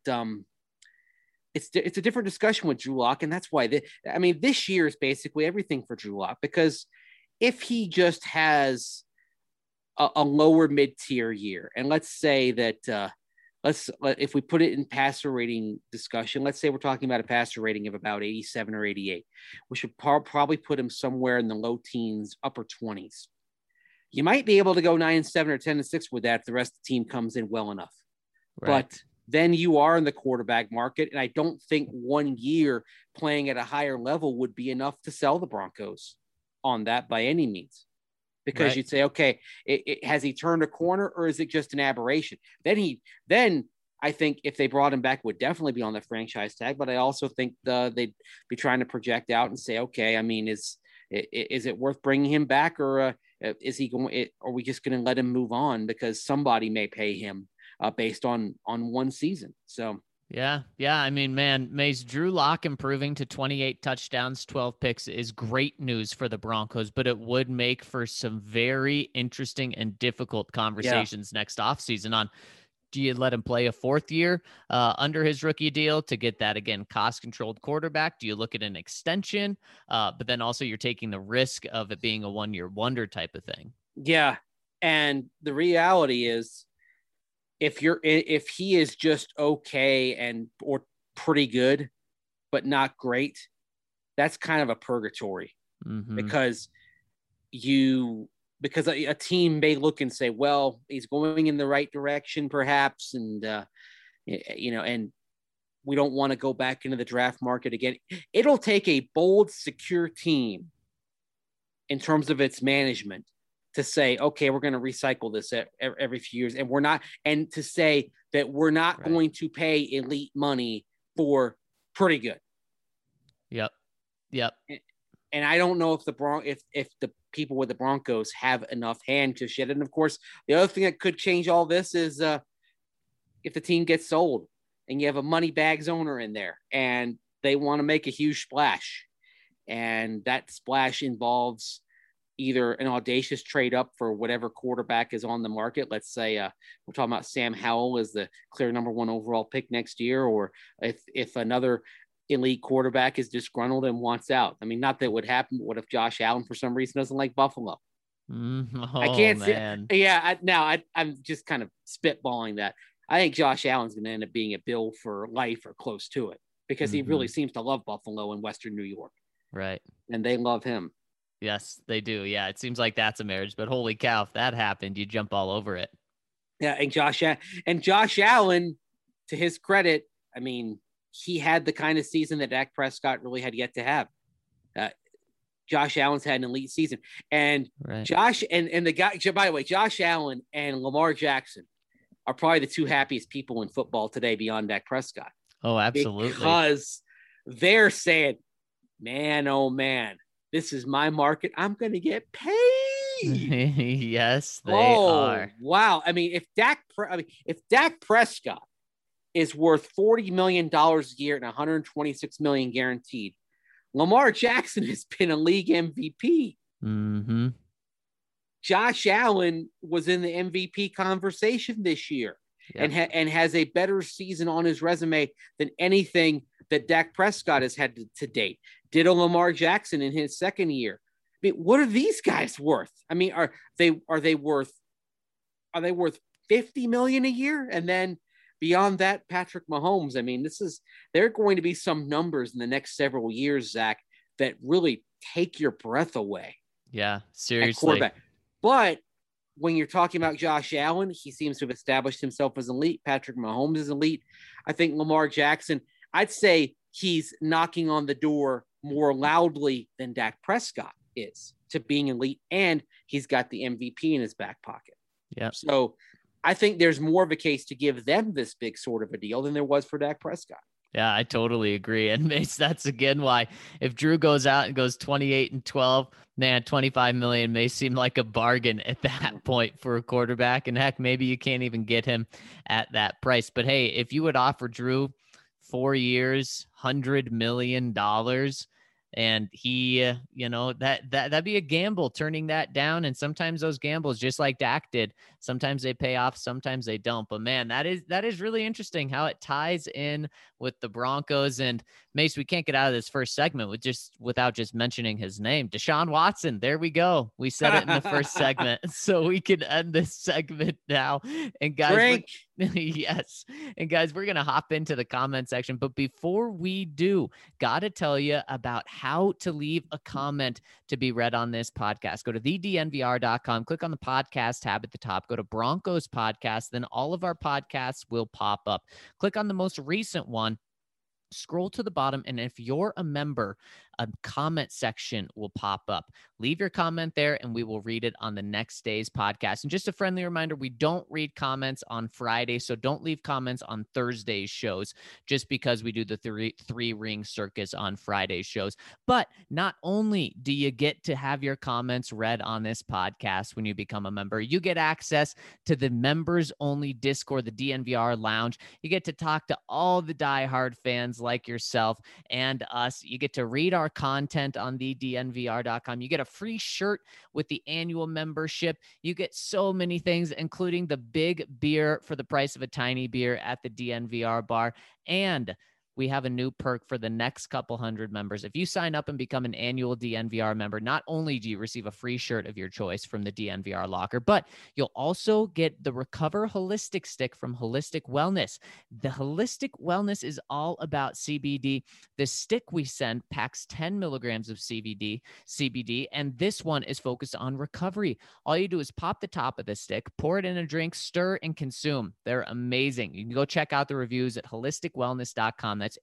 it's a different discussion with Drew Lock, and that's why this year is basically everything for Drew Lock, because if he just has a lower mid-tier year, and let's say that if we put it in passer rating discussion, let's say we're talking about a passer rating of about 87 or 88, we should probably put him somewhere in the low teens, upper 20s. You might be able to go 9-7 or 10-6 with that if the rest of the team comes in well enough. Right. But then you are in the quarterback market, and I don't think 1 year playing at a higher level would be enough to sell the Broncos on that by any means. Because you'd say, okay, has he turned a corner, or is it just an aberration? Then I think if they brought him back, would definitely be on the franchise tag. But I also think they'd be trying to project out and say, okay, I mean, is it worth bringing him back, or is he going? Are we just going to let him move on because somebody may pay him based on one season? So. Yeah. I mean, man, Mace, Drew Lock improving to 28 touchdowns, 12 picks is great news for the Broncos, but it would make for some very interesting and difficult conversations next offseason on, do you let him play a fourth year under his rookie deal to get that, again, cost-controlled quarterback? Do you look at an extension? But then also you're taking the risk of it being a one-year wonder type of thing. Yeah. And the reality is, if he is just okay or pretty good, but not great, that's kind of a purgatory because a team may look and say, well, he's going in the right direction perhaps. And, and we don't want to go back into the draft market again. It'll take a bold, secure team in terms of its management to say, okay, we're going to recycle this every few years, and to say that we're not going to pay elite money for pretty good. Yep. And I don't know if the people with the Broncos have enough hand to shit. And of course, the other thing that could change all this is if the team gets sold and you have a money bags owner in there and they want to make a huge splash, and that splash involves either an audacious trade up for whatever quarterback is on the market. Let's say we're talking about Sam Howell as the clear number 1 overall pick next year, or if another elite quarterback is disgruntled and wants out. I mean, not that would happen, but what if Josh Allen for some reason doesn't like Buffalo? I can't see. Yeah, I'm just kind of spitballing that. I think Josh Allen's going to end up being a Bill for life or close to it, because he really seems to love Buffalo and Western New York. Right. And they love him. Yes, they do. Yeah, it seems like that's a marriage, but holy cow, if that happened, you jump all over it. Yeah, and Josh Allen, to his credit, I mean, he had the kind of season that Dak Prescott really had yet to have. Josh Allen's had an elite season. And Right. Josh and the guy, by the way, Josh Allen and Lamar Jackson are probably the two happiest people in football today beyond Dak Prescott. Oh, absolutely. Because they're saying, man, oh man, this is my market. I'm going to get paid. Yes, they are. Wow. I mean, if Dak Prescott is worth $40 million a year and $126 million guaranteed, Lamar Jackson has been a league MVP. Mm-hmm. Josh Allen was in the MVP conversation this year. Yep. And has a better season on his resume than anything that Dak Prescott has had to date. Ditto Lamar Jackson in his second year. I mean, what are these guys worth? I mean, are they worth $50 million a year? And then beyond that, Patrick Mahomes. I mean, there are going to be some numbers in the next several years, Zach, that really take your breath away. Yeah, seriously. But when you're talking about Josh Allen, he seems to have established himself as elite. Patrick Mahomes is elite. I think Lamar Jackson, I'd say he's knocking on the door more loudly than Dak Prescott is to being elite, and he's got the MVP in his back pocket. Yeah. So I think there's more of a case to give them this big sort of a deal than there was for Dak Prescott. Yeah, I totally agree. And Mace, that's again why if Drew goes out and goes 28-12, man, 25 million may seem like a bargain at that point for a quarterback. And heck, maybe you can't even get him at that price. But hey, if you would offer Drew 4 years, $100 million, and he, that'd be a gamble turning that down. And sometimes those gambles, just like Dak did, sometimes they pay off, sometimes they don't. But man, that is really interesting how it ties in with the Broncos. And Mace, we can't get out of this first segment without just mentioning his name, Deshaun Watson. There we go. We said it in the first segment, so we can end this segment now. And guys, yes. And guys, we're going to hop into the comment section. But before we do, got to tell you about how to leave a comment to be read on this podcast. Go to thednvr.com, click on the podcast tab at the top, go to Broncos podcast, then all of our podcasts will pop up. Click on the most recent one, scroll to the bottom, and if you're a member, a comment section will pop up. Leave your comment there and we will read it on the next day's podcast. And just a friendly reminder, we don't read comments on Friday, so don't leave comments on Thursday's shows just because we do the three ring circus on Friday's shows. But not only do you get to have your comments read on this podcast when you become a member, you get access to the members only Discord, the DNVR Lounge. You get to talk to all the diehard fans like yourself and us. You get to read our content on thednvr.com. You get a free shirt with the annual membership. You get so many things, including the big beer for the price of a tiny beer at the DNVR bar. And we have a new perk for the next couple hundred members. If you sign up and become an annual DNVR member, not only do you receive a free shirt of your choice from the DNVR locker, but you'll also get the Recover Holistic Stick from Holistic Wellness. The Holistic Wellness is all about CBD. The stick we send packs 10 milligrams of CBD, and this one is focused on recovery. All you do is pop the top of the stick, pour it in a drink, stir, and consume. They're amazing. You can go check out the reviews at holisticwellness.com. That's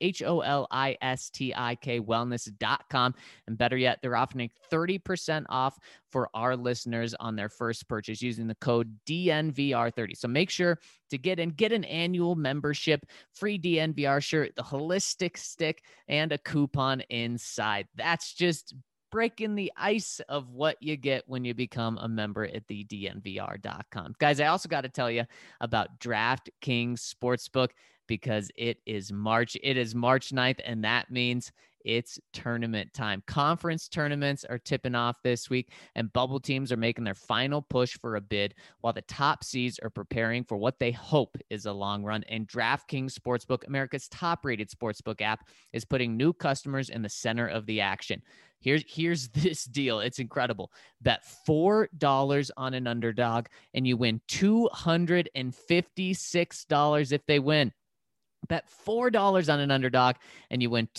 HOLISTIK wellness.com. And better yet, they're offering 30% off for our listeners on their first purchase using the code DNVR30. So make sure to get an annual membership, free DNVR shirt, the holistic stick, and a coupon inside. That's just breaking the ice of what you get when you become a member at the DNVR.com. Guys, I also got to tell you about DraftKings Sportsbook, because it is March 9th, and that means it's tournament time. Conference tournaments are tipping off this week, and bubble teams are making their final push for a bid, while the top seeds are preparing for what they hope is a long run. And DraftKings Sportsbook, America's top-rated sportsbook app, is putting new customers in the center of the action. Here's this deal. It's incredible. Bet $4 on an underdog, and you win $256 if they win. Bet $4 on an underdog and you win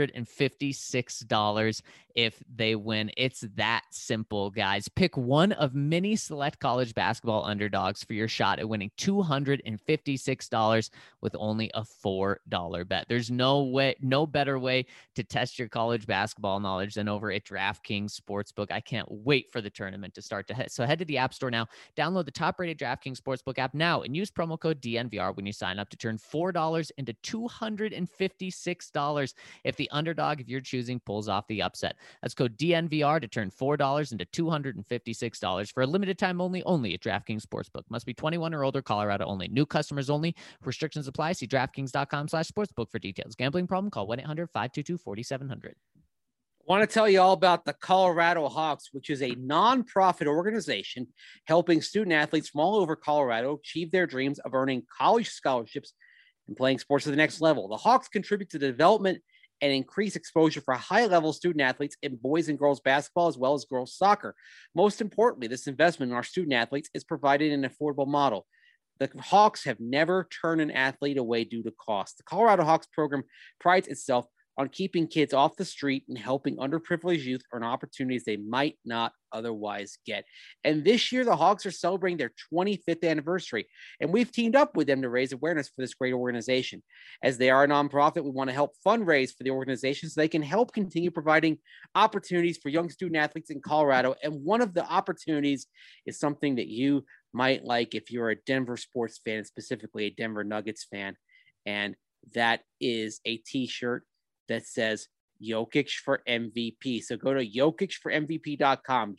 $256 if they win. It's that simple, guys. Pick one of many select college basketball underdogs for your shot at winning $256 with only a $4 bet. There's no better way to test your college basketball knowledge than over at DraftKings Sportsbook. I can't wait for the tournament to start. So head to the App Store now, download the top-rated DraftKings Sportsbook app now, and use promo code DNVR when you sign up to turn $4 into $256 if the underdog of your choosing pulls off the upset. That's code DNVR to turn $4 into $256 for a limited time only at DraftKings Sportsbook. Must be 21 or older, Colorado only. New customers only. Restrictions apply. See DraftKings.com/sportsbook for details. Gambling problem? Call 1-800-522-4700. I want to tell you all about the Colorado Hawks, which is a nonprofit organization helping student athletes from all over Colorado achieve their dreams of earning college scholarships and playing sports at the next level. The Hawks contribute to the development and increase exposure for high-level student athletes in boys and girls basketball as well as girls soccer. Most importantly, this investment in our student athletes is provided in an affordable model. The Hawks have never turned an athlete away due to cost. The Colorado Hawks program prides itself on keeping kids off the street and helping underprivileged youth earn opportunities they might not otherwise get. And this year, the Hawks are celebrating their 25th anniversary, and we've teamed up with them to raise awareness for this great organization. As they are a nonprofit, we want to help fundraise for the organization so they can help continue providing opportunities for young student athletes in Colorado. And one of the opportunities is something that you might like if you're a Denver sports fan, specifically a Denver Nuggets fan, and that is a t-shirt that says Jokic for MVP. So go to jokicformvp.com,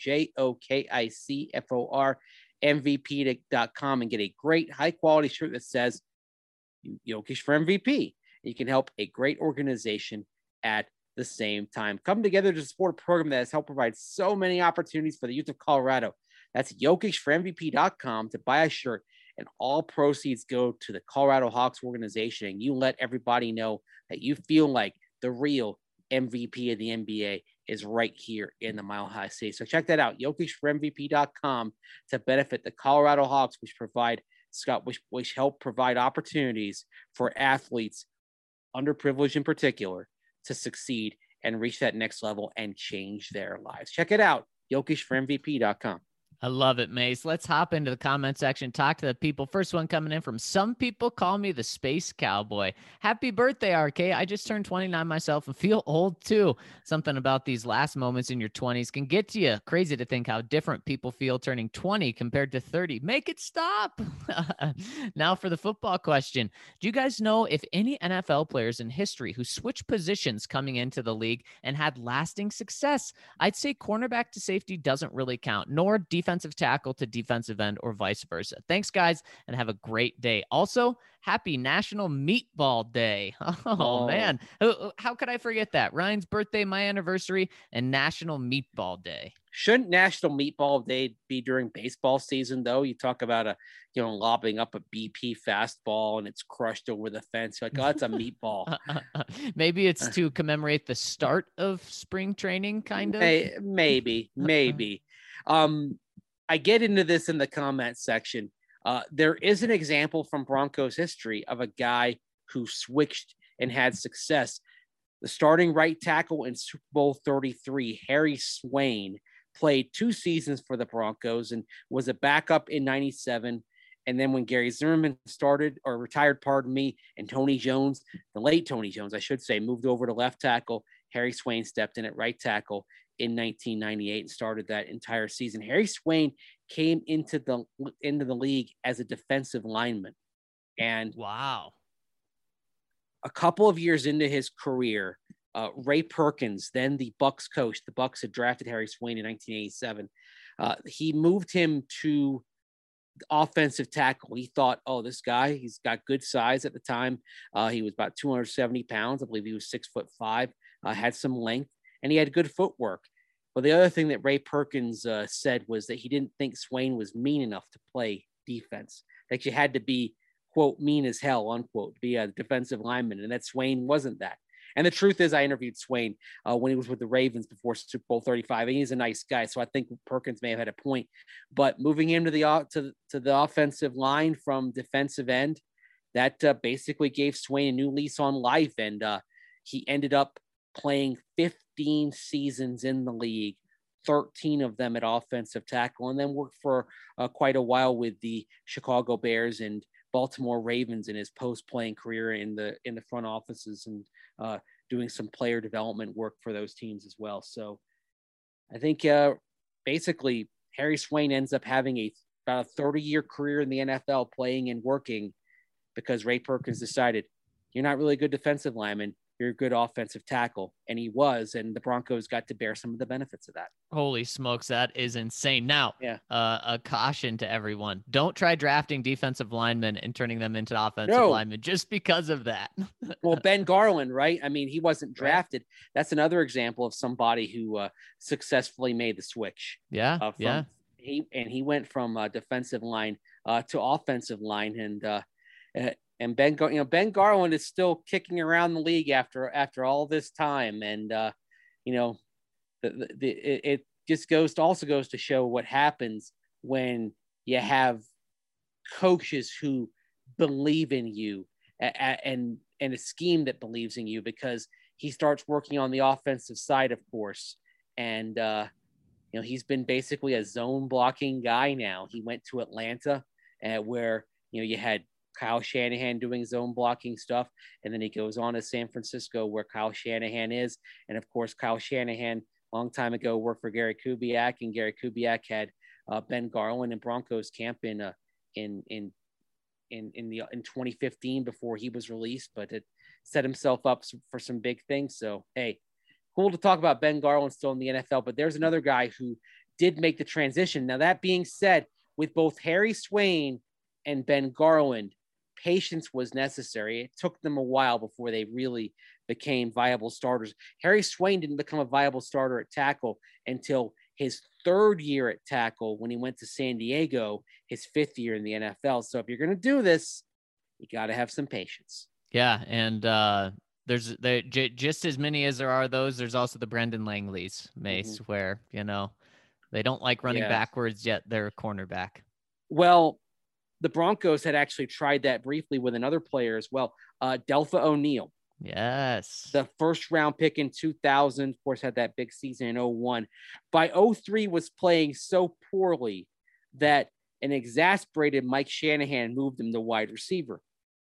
JOKICFOR MVP.com, and get a great high quality shirt that says Jokic for MVP. You can help a great organization at the same time. Come together to support a program that has helped provide so many opportunities for the youth of Colorado. That's jokicformvp.com to buy a shirt, and all proceeds go to the Colorado Hawks organization. And you let everybody know that you feel like the real MVP of the NBA is right here in the Mile High City. So check that out, jokicformvp.com, to benefit the Colorado Hawks, which help provide opportunities for athletes, underprivileged in particular, to succeed and reach that next level and change their lives. Check it out, jokicformvp.com. I love it, Mace. Let's hop into the comment section, talk to the people. First one coming in from Some People Call Me the Space Cowboy. Happy birthday, RK. I just turned 29 myself and feel old too. Something about these last moments in your 20s can get to you. Crazy to think how different people feel turning 20 compared to 30. Make it stop. Now for the football question. Do you guys know if any NFL players in history who switched positions coming into the league and had lasting success? I'd say cornerback to safety doesn't really count, nor defensive tackle to defensive end or vice versa. Thanks, guys, and have a great day. Also, happy National Meatball Day. Oh, man. How could I forget that? Ryan's birthday, my anniversary, and National Meatball Day. Shouldn't National Meatball Day be during baseball season, though? You talk about lobbing up a BP fastball and it's crushed over the fence. You're like, oh, it's a meatball. Maybe it's to commemorate the start of spring training, kind of. Maybe. I get into this in the comment section. There is an example from Broncos history of a guy who switched and had success. The starting right tackle in Super Bowl 33, Harry Swain, played 2 seasons for the Broncos and was a backup in 97. And then when Gary Zimmerman retired, and Tony Jones, the late Tony Jones, I should say, moved over to left tackle, Harry Swain stepped in at right tackle in 1998 and started that entire season. Harry Swain came into the league as a defensive lineman. And wow. A couple of years into his career, Ray Perkins, then the Bucs coach, the Bucs had drafted Harry Swain in 1987. He moved him to offensive tackle. He thought, oh, this guy, he's got good size at the time. He was about 270 pounds. I believe he was 6'5", had some length, and he had good footwork. But the other thing that Ray Perkins said was that he didn't think Swain was mean enough to play defense. Like you had to be, quote, mean as hell, unquote, to be a defensive lineman, and that Swain wasn't that. And the truth is, I interviewed Swain when he was with the Ravens before Super Bowl 35, and he's a nice guy. So I think Perkins may have had a point. But moving him to the offensive line from defensive end, that basically gave Swain a new lease on life. And he ended up playing 15 seasons in the league, 13 of them at offensive tackle, and then worked for quite a while with the Chicago Bears and Baltimore Ravens in his post-playing career in the front offices and doing some player development work for those teams as well. So I think basically Harry Swain ends up having about a 30-year career in the NFL playing and working because Ray Perkins decided, you're not really a good defensive lineman, you're a good offensive tackle. And he was, and the Broncos got to bear some of the benefits of that. Holy smokes, that is insane. Now, yeah. A caution to everyone. Don't try drafting defensive linemen and turning them into offensive linemen just because of that. Well, Ben Garland, right? I mean, he wasn't drafted. Right. That's another example of somebody who successfully made the switch. Yeah, He went from defensive line to offensive line, and Ben Garland is still kicking around the league after all this time. And, it just goes to show what happens when you have coaches who believe in you and a scheme that believes in you, because he starts working on the offensive side, of course. And, he's been basically a zone blocking guy now. He went to Atlanta where, you had Kyle Shanahan doing zone blocking stuff. And then he goes on to San Francisco where Kyle Shanahan is. And of course, Kyle Shanahan, a long time ago, worked for Gary Kubiak, and Gary Kubiak had Ben Garland in Broncos camp in 2015 before he was released, but it set himself up for some big things. So, hey, cool to talk about Ben Garland still in the NFL, but there's another guy who did make the transition. Now, that being said, with both Harry Swain and Ben Garland, patience was necessary. It took them a while before they really became viable starters. Harry Swain didn't become a viable starter at tackle until his third year at tackle when he went to San Diego, his fifth year in the NFL. So if you're going to do this, you got to have some patience. Yeah, and there's just as many as there are those. There's also the Brendan Langleys, Mace, where they don't like running backwards, yet they're a cornerback. Well, the Broncos had actually tried that briefly with another player as well, Delpha O'Neal. Yes. The first round pick in 2000, of course, had that big season in 2001. By 2003 was playing so poorly that an exasperated Mike Shanahan moved him to wide receiver.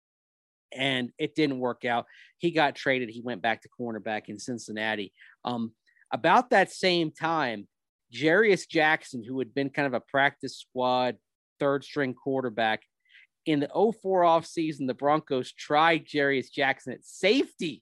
And it didn't work out. He got traded. He went back to cornerback in Cincinnati. About that same time, Jarius Jackson, who had been kind of a practice squad third string quarterback, in the 2004 offseason, the Broncos tried Jarius Jackson at safety.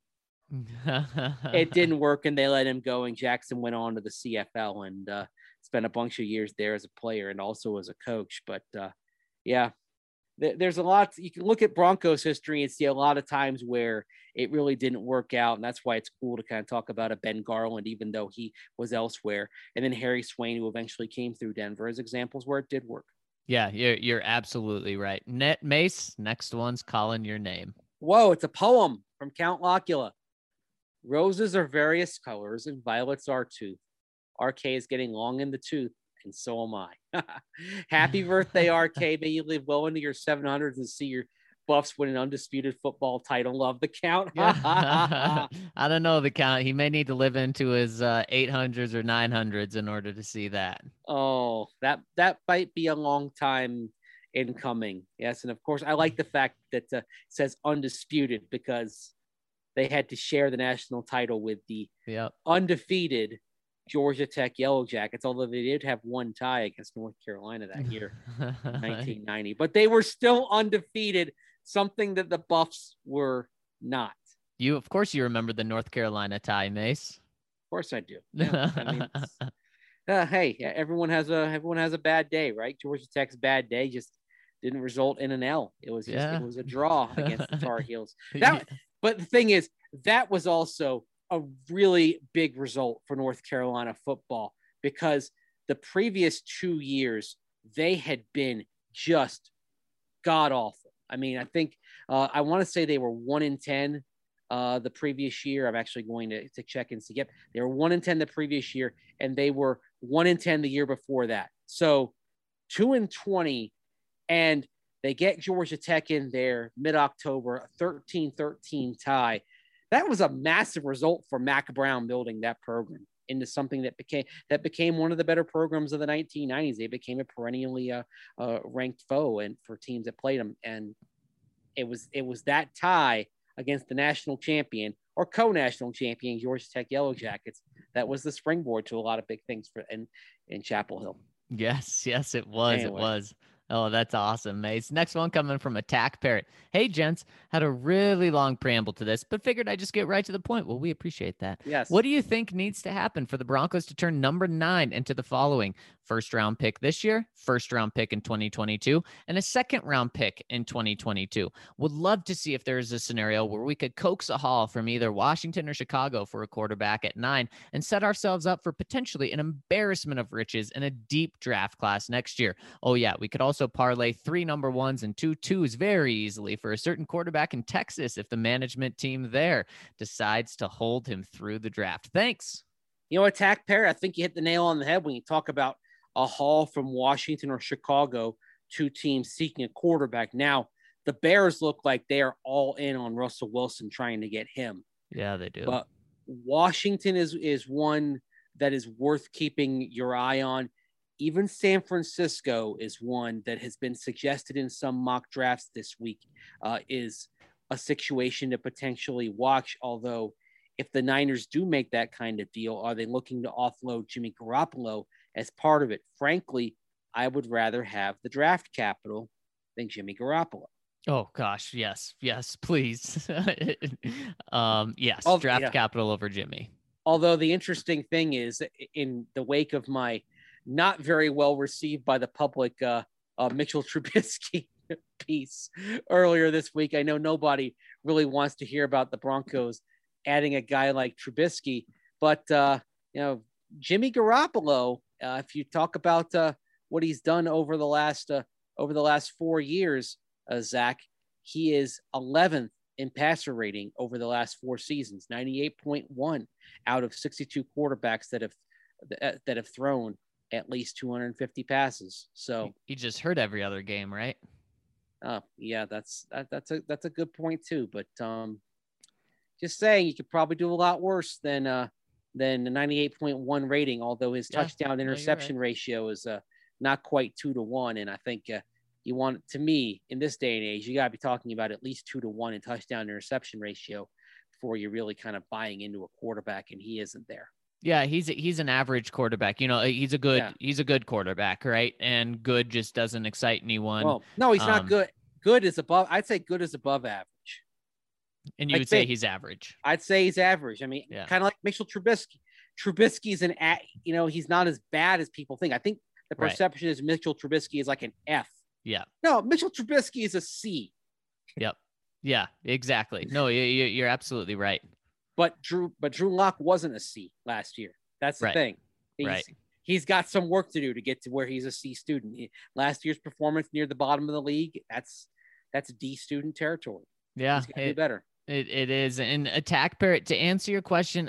It didn't work, and they let him go, and Jackson went on to the CFL and spent a bunch of years there as a player and also as a coach. But there's a lot. You can look at Broncos history and see a lot of times where it really didn't work out. And that's why it's cool to kind of talk about a Ben Garland, even though he was elsewhere. And then Harry Swain, who eventually came through Denver, as examples where it did work. Yeah, you're absolutely right. Mace, next one's calling your name. Whoa, it's a poem from Count Locula. Roses are various colors and violets are too. RK is getting long in the tooth, and so am I. Happy birthday, RK. May you live well into your 700s and see your Buffs win an undisputed football title. Love the Count. I don't know the Count. He may need to live into his 800s or 900s in order to see that. Oh, that might be a long time in coming. Yes, and of course, I like the fact that it says undisputed because they had to share the national title with the undefeated Georgia Tech Yellow Jackets, although they did have one tie against North Carolina that year, 1990. But they were still undefeated, something that the Buffs were not. Of course, you remember the North Carolina tie, Mace. Of course I do. Yeah, I mean, hey, everyone has a bad day, right? Georgia Tech's bad day just didn't result in an L. It was it was a draw against the Tar Heels. But the thing is, that was also a really big result for North Carolina football because the previous 2 years they had been just god awful. I mean, I think I want to say they were 1-10 the previous year. I'm actually going to check and see. Yep, they were 1-10 the previous year, and they were 1-10 the year before that. So 2-20, and They get Georgia Tech in there mid-October, a 13-13 tie. That was a massive result for Mack Brown building that program into something that became one of the better programs of the 1990s. They became a perennially ranked foe and for teams that played them. And it was that tie against the national champion or co-national champion Georgia Tech Yellow Jackets that was the springboard to a lot of big things in Chapel Hill. Yes, it was. Anyway. It was. Oh, that's awesome, Mace. Next one coming from Attack Parrot. Hey, gents, had a really long preamble to this, but figured I'd just get right to the point. Well, we appreciate that. Yes. What do you think needs to happen for the Broncos to turn number 9 into the following? First round pick this year, first round pick in 2022, and a second round pick in 2022. Would love to see if there's a scenario where we could coax a haul from either Washington or Chicago for a quarterback at 9 and set ourselves up for potentially an embarrassment of riches in a deep draft class next year. Oh yeah, we could also parlay 3 number 1s and 2 2s very easily for a certain quarterback in Texas if the management team there decides to hold him through the draft. Thanks. You know, Attack Parrot, I think you hit the nail on the head when you talk about a haul from Washington or Chicago, 2 teams seeking a quarterback. Now, the Bears look like they are all in on Russell Wilson trying to get him. Yeah, they do. But Washington is one that is worth keeping your eye on. Even San Francisco is one that has been suggested in some mock drafts this week, is a situation to potentially watch. Although if the Niners do make that kind of deal, are they looking to offload Jimmy Garoppolo as part of it? Frankly, I would rather have the draft capital than Jimmy Garoppolo. Oh gosh, yes, please. Yes, draft capital over Jimmy. Although the interesting thing is, in the wake of my not very well received by the public Mitchell Trubisky piece earlier this week, I know nobody really wants to hear about the Broncos adding a guy like Trubisky, but Jimmy Garoppolo, if you talk about what he's done over the last 4 years, Zach, he is 11th in passer rating over the last 4 seasons, 98.1 out of 62 quarterbacks that have thrown at least 250 passes. So he just hurt every other game, right? Yeah, that's a good point too. But just saying, you could probably do a lot worse than the 98.1 rating. Although his touchdown interception ratio is not quite 2-1, and I think you want, to me, in this day and age, you got to be talking about at least 2-1 in touchdown interception ratio before you're really kind of buying into a quarterback, and he isn't there. Yeah, he's an average quarterback. You know, he's a good quarterback, right? And good just doesn't excite anyone. Well, no, he's not good. Good is above. I'd say good is above average. And you would say he's average. I'd say he's average. I mean, kind of like Mitchell Trubisky. Trubisky's he's not as bad as people think. I think the perception is Mitchell Trubisky is like an F. Yeah. No, Mitchell Trubisky is a C. Yep. Yeah, exactly. No, you're absolutely right. But Drew Lock wasn't a C last year. That's the thing. He's got some work to do to get to where he's a C student. Last year's performance near the bottom of the league, that's D student territory. Yeah, he's gotta do better. It is. And Attack Parrot, to answer your question,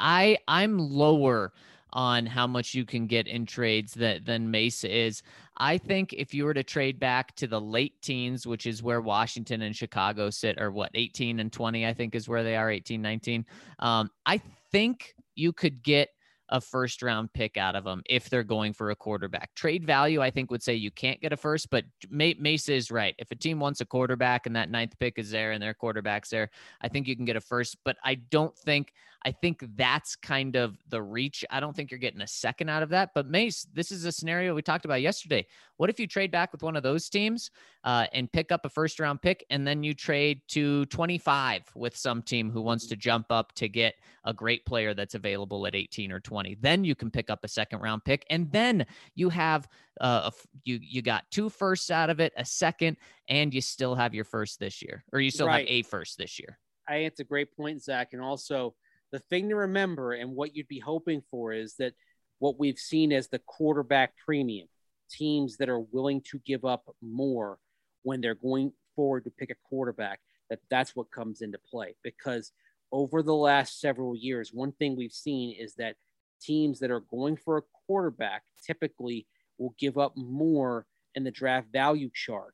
I'm lower on how much you can get in trades than Mesa is. I think if you were to trade back to the late teens, which is where Washington and Chicago sit, or 18 and 20, I think is where they are, 18, 19. I think you could get a first round pick out of them if they're going for a quarterback. Trade value, I think, would say you can't get a first, but Mesa is right. If a team wants a quarterback and that 9th pick is there and their quarterback's there, I think you can get a first, but I think that's kind of the reach. I don't think you're getting a second out of that. But Mace, this is a scenario we talked about yesterday. What if you trade back with one of those teams and pick up a first round pick, and then you trade to 25 with some team who wants to jump up to get a great player that's available at 18 or 20? Then you can pick up a second round pick, and then you have you got 2 firsts out of it, a second, and you still have your first this year, or you still have a first this year. It's a great point, Zach. And also, the thing to remember and what you'd be hoping for is that what we've seen as the quarterback premium, teams that are willing to give up more when they're going forward to pick a quarterback, that's what comes into play. Because over the last several years, one thing we've seen is that teams that are going for a quarterback typically will give up more in the draft value chart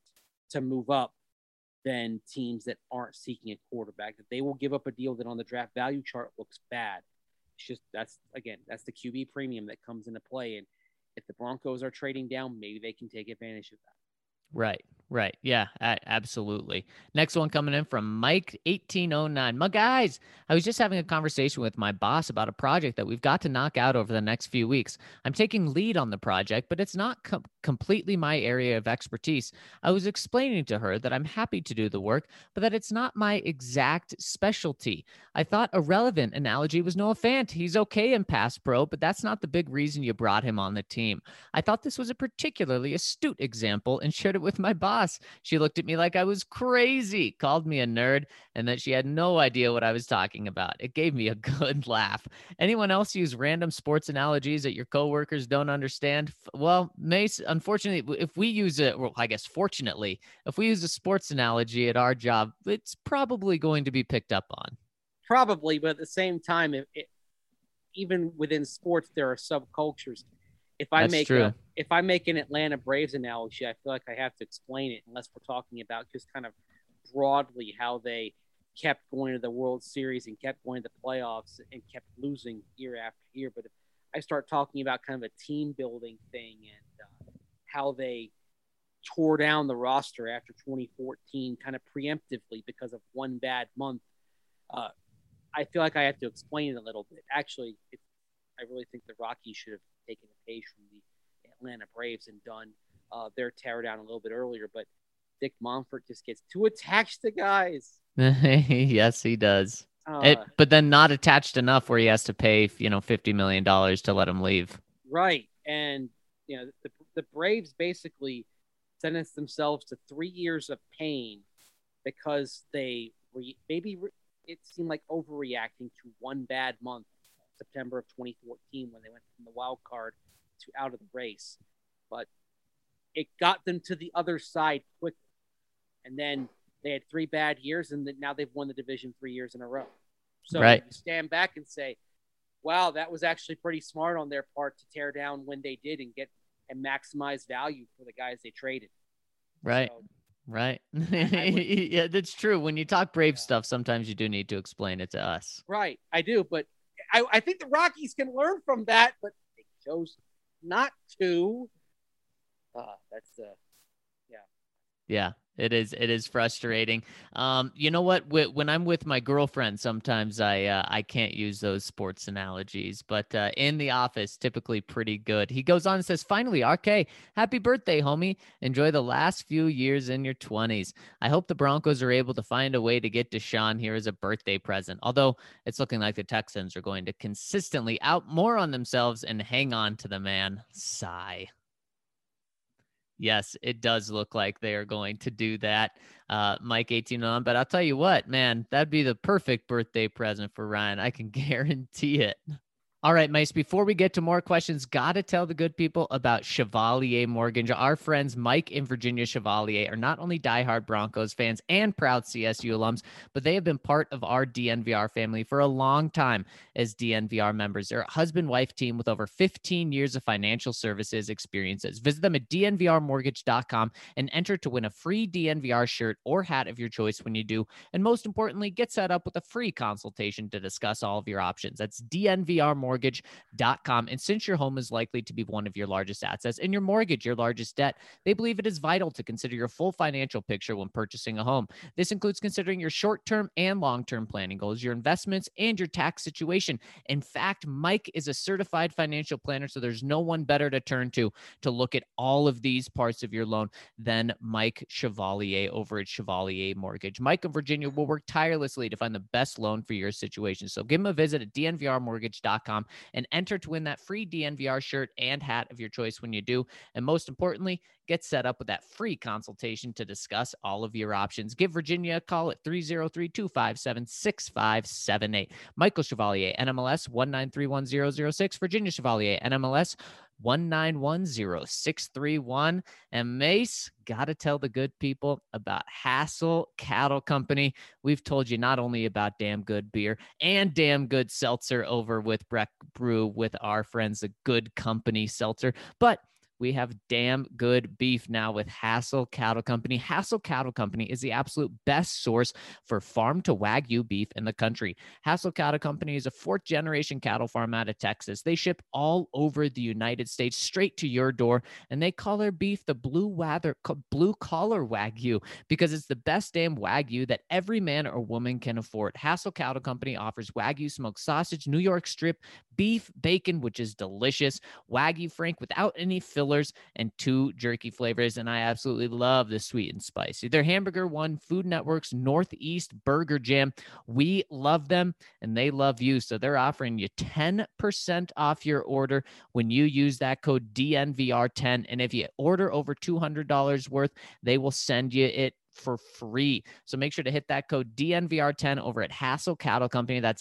to move up than teams that aren't seeking a quarterback, that they will give up a deal that on the draft value chart looks bad. It's just, that's the QB premium that comes into play. And if the Broncos are trading down, maybe they can take advantage of that. Right. Yeah, absolutely. Next one coming in from Mike1809. My guys, I was just having a conversation with my boss about a project that we've got to knock out over the next few weeks. I'm taking lead on the project, but it's not completely my area of expertise. I was explaining to her that I'm happy to do the work, but that it's not my exact specialty. I thought a relevant analogy was Noah Fant. He's okay in pass pro, but that's not the big reason you brought him on the team. I thought this was a particularly astute example and shared it with my boss. She looked at me like I was crazy, called me a nerd, and that she had no idea what I was talking about. It gave me a good laugh. Anyone else use random sports analogies that your coworkers don't understand? Well, Mace, unfortunately, if we use it, well, I guess fortunately, if we use a sports analogy at our job, it's probably going to be picked up on. Probably, but at the same time, even within sports, there are subcultures. If I make an Atlanta Braves analogy, I feel like I have to explain it, unless we're talking about just kind of broadly how they kept going to the World Series and kept going to the playoffs and kept losing year after year. But if I start talking about kind of a team building thing and how they tore down the roster after 2014 kind of preemptively because of one bad month, I feel like I have to explain it a little bit. Actually, I really think the Rockies should have taken a page from the Atlanta Braves and done their tear down a little bit earlier. But Dick Monfort just gets too attached to guys. Yes, he does. But then not attached enough where he has to pay, $50 million to let him leave. Right. And, the Braves basically sentenced themselves to 3 years of pain because they it seemed like overreacting to one bad month, September of 2014, when they went from the wild card to out of the race. But it got them to the other side quickly. And then they had 3 bad years, and now they've won the division 3 years in a row. So you stand back and say, wow, that was actually pretty smart on their part to tear down when they did and maximize value for the guys they traded. Right. So, right. Yeah, that's true. When you talk Brave stuff, sometimes you do need to explain it to us. Right. I do. But I think the Rockies can learn from that, but they chose not to. Yeah, it is frustrating. You know what? When I'm with my girlfriend, sometimes I can't use those sports analogies, but in the office, typically pretty good. He goes on and says, finally, RK, happy birthday, homie. Enjoy the last few years in your 20s. I hope the Broncos are able to find a way to get Deshaun here as a birthday present, although it's looking like the Texans are going to consistently out more on themselves and hang on to the man. Sigh. Yes, it does look like they are going to do that, Mike 18 on. But I'll tell you what, man, that'd be the perfect birthday present for Ryan. I can guarantee it. All right, Mace, before we get to more questions, got to tell the good people about Chevalier Mortgage. Our friends Mike and Virginia Chevalier are not only diehard Broncos fans and proud CSU alums, but they have been part of our DNVR family for a long time as DNVR members. They're a husband-wife team with over 15 years of financial services experiences. Visit them at dnvrmortgage.com and enter to win a free DNVR shirt or hat of your choice when you do. And most importantly, get set up with a free consultation to discuss all of your options. That's dnvrmortgage.com. And since your home is likely to be one of your largest assets and your mortgage your largest debt, they believe it is vital to consider your full financial picture when purchasing a home. This includes considering your short-term and long-term planning goals, your investments, and your tax situation. In fact, Mike is a certified financial planner, so there's no one better to turn to look at all of these parts of your loan than Mike Chevalier over at Chevalier Mortgage. Mike and Virginia will work tirelessly to find the best loan for your situation. So give them a visit at dnvrmortgage.com and enter to win that free DNVR shirt and hat of your choice when you do. And most importantly, get set up with that free consultation to discuss all of your options. Give Virginia a call at 303-257-6578. Michael Chevalier, NMLS 1931006. Virginia Chevalier, NMLS 1910631. And Mace, got to tell the good people about Hassel Cattle Company. We've told you not only about damn good beer and damn good seltzer over with Breck Brew with our friends, the Good Company Seltzer, but we have damn good beef now with Hassel Cattle Company. Hassel Cattle Company is the absolute best source for farm to Wagyu beef in the country. Hassel Cattle Company is a 4th-generation cattle farm out of Texas. They ship all over the United States straight to your door, and they call their beef the blue collar Wagyu because it's the best damn Wagyu that every man or woman can afford. Hassel Cattle Company offers Wagyu smoked sausage, New York strip, beef, bacon, which is delicious, Wagyu Frank without any fillers, and 2 jerky flavors. And I absolutely love the sweet and spicy. Their hamburger won Food Network's Northeast Burger Jam. We love them and they love you. So they're offering you 10% off your order when you use that code DNVR10. And if you order over $200 worth, they will send you it for free. So make sure to hit that code DNVR10 over at Hassel Cattle Company. That's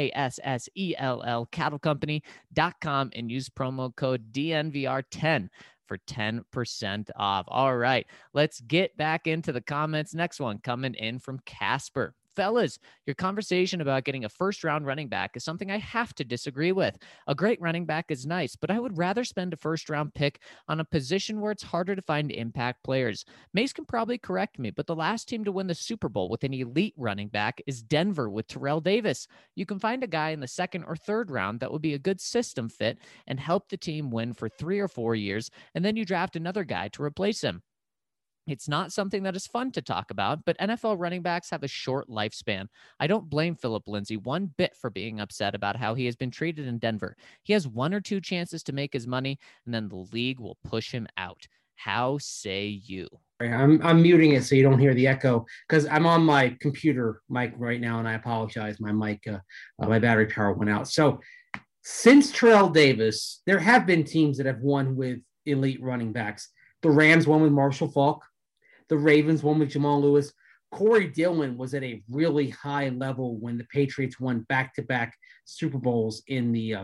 HASSELL cattlecompany.com and use promo code DNVR10 for 10% off. All right, let's get back into the comments. Next one coming in from Casper. Fellas, your conversation about getting a first-round running back is something I have to disagree with. A great running back is nice, but I would rather spend a first-round pick on a position where it's harder to find impact players. Mace can probably correct me, but the last team to win the Super Bowl with an elite running back is Denver with Terrell Davis. You can find a guy in the 2nd or 3rd round that would be a good system fit and help the team win for 3 or 4 years, and then you draft another guy to replace him. It's not something that is fun to talk about, but NFL running backs have a short lifespan. I don't blame Philip Lindsay one bit for being upset about how he has been treated in Denver. He has 1 or 2 chances to make his money, and then the league will push him out. How say you? I'm muting it so you don't hear the echo because I'm on my computer mic right now, and I apologize. My mic, my battery power went out. So since Terrell Davis, there have been teams that have won with elite running backs. The Rams won with Marshall Faulk. The Ravens won with Jamal Lewis. Corey Dillon was at a really high level when the Patriots won back-to-back Super Bowls in the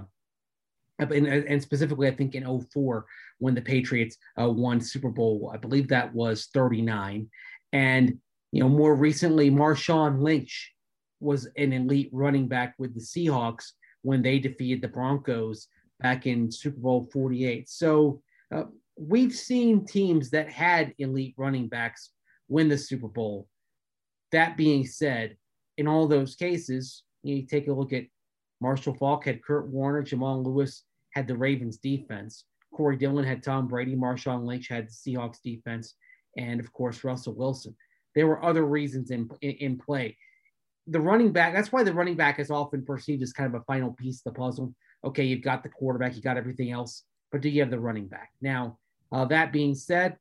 and specifically, I think in 2004 when the Patriots won Super Bowl, I believe that was 39. And, more recently, Marshawn Lynch was an elite running back with the Seahawks when they defeated the Broncos back in Super Bowl 48. So we've seen teams that had elite running backs win the Super Bowl. That being said, in all those cases, you take a look at Marshall Faulk had Kurt Warner, Jamal Lewis had the Ravens defense, Corey Dillon had Tom Brady, Marshawn Lynch had the Seahawks defense, and of course Russell Wilson. There were other reasons in play. The running back, that's why the running back is often perceived as kind of a final piece of the puzzle. Okay, you've got the quarterback, you got everything else, but do you have the running back? Now, that being said,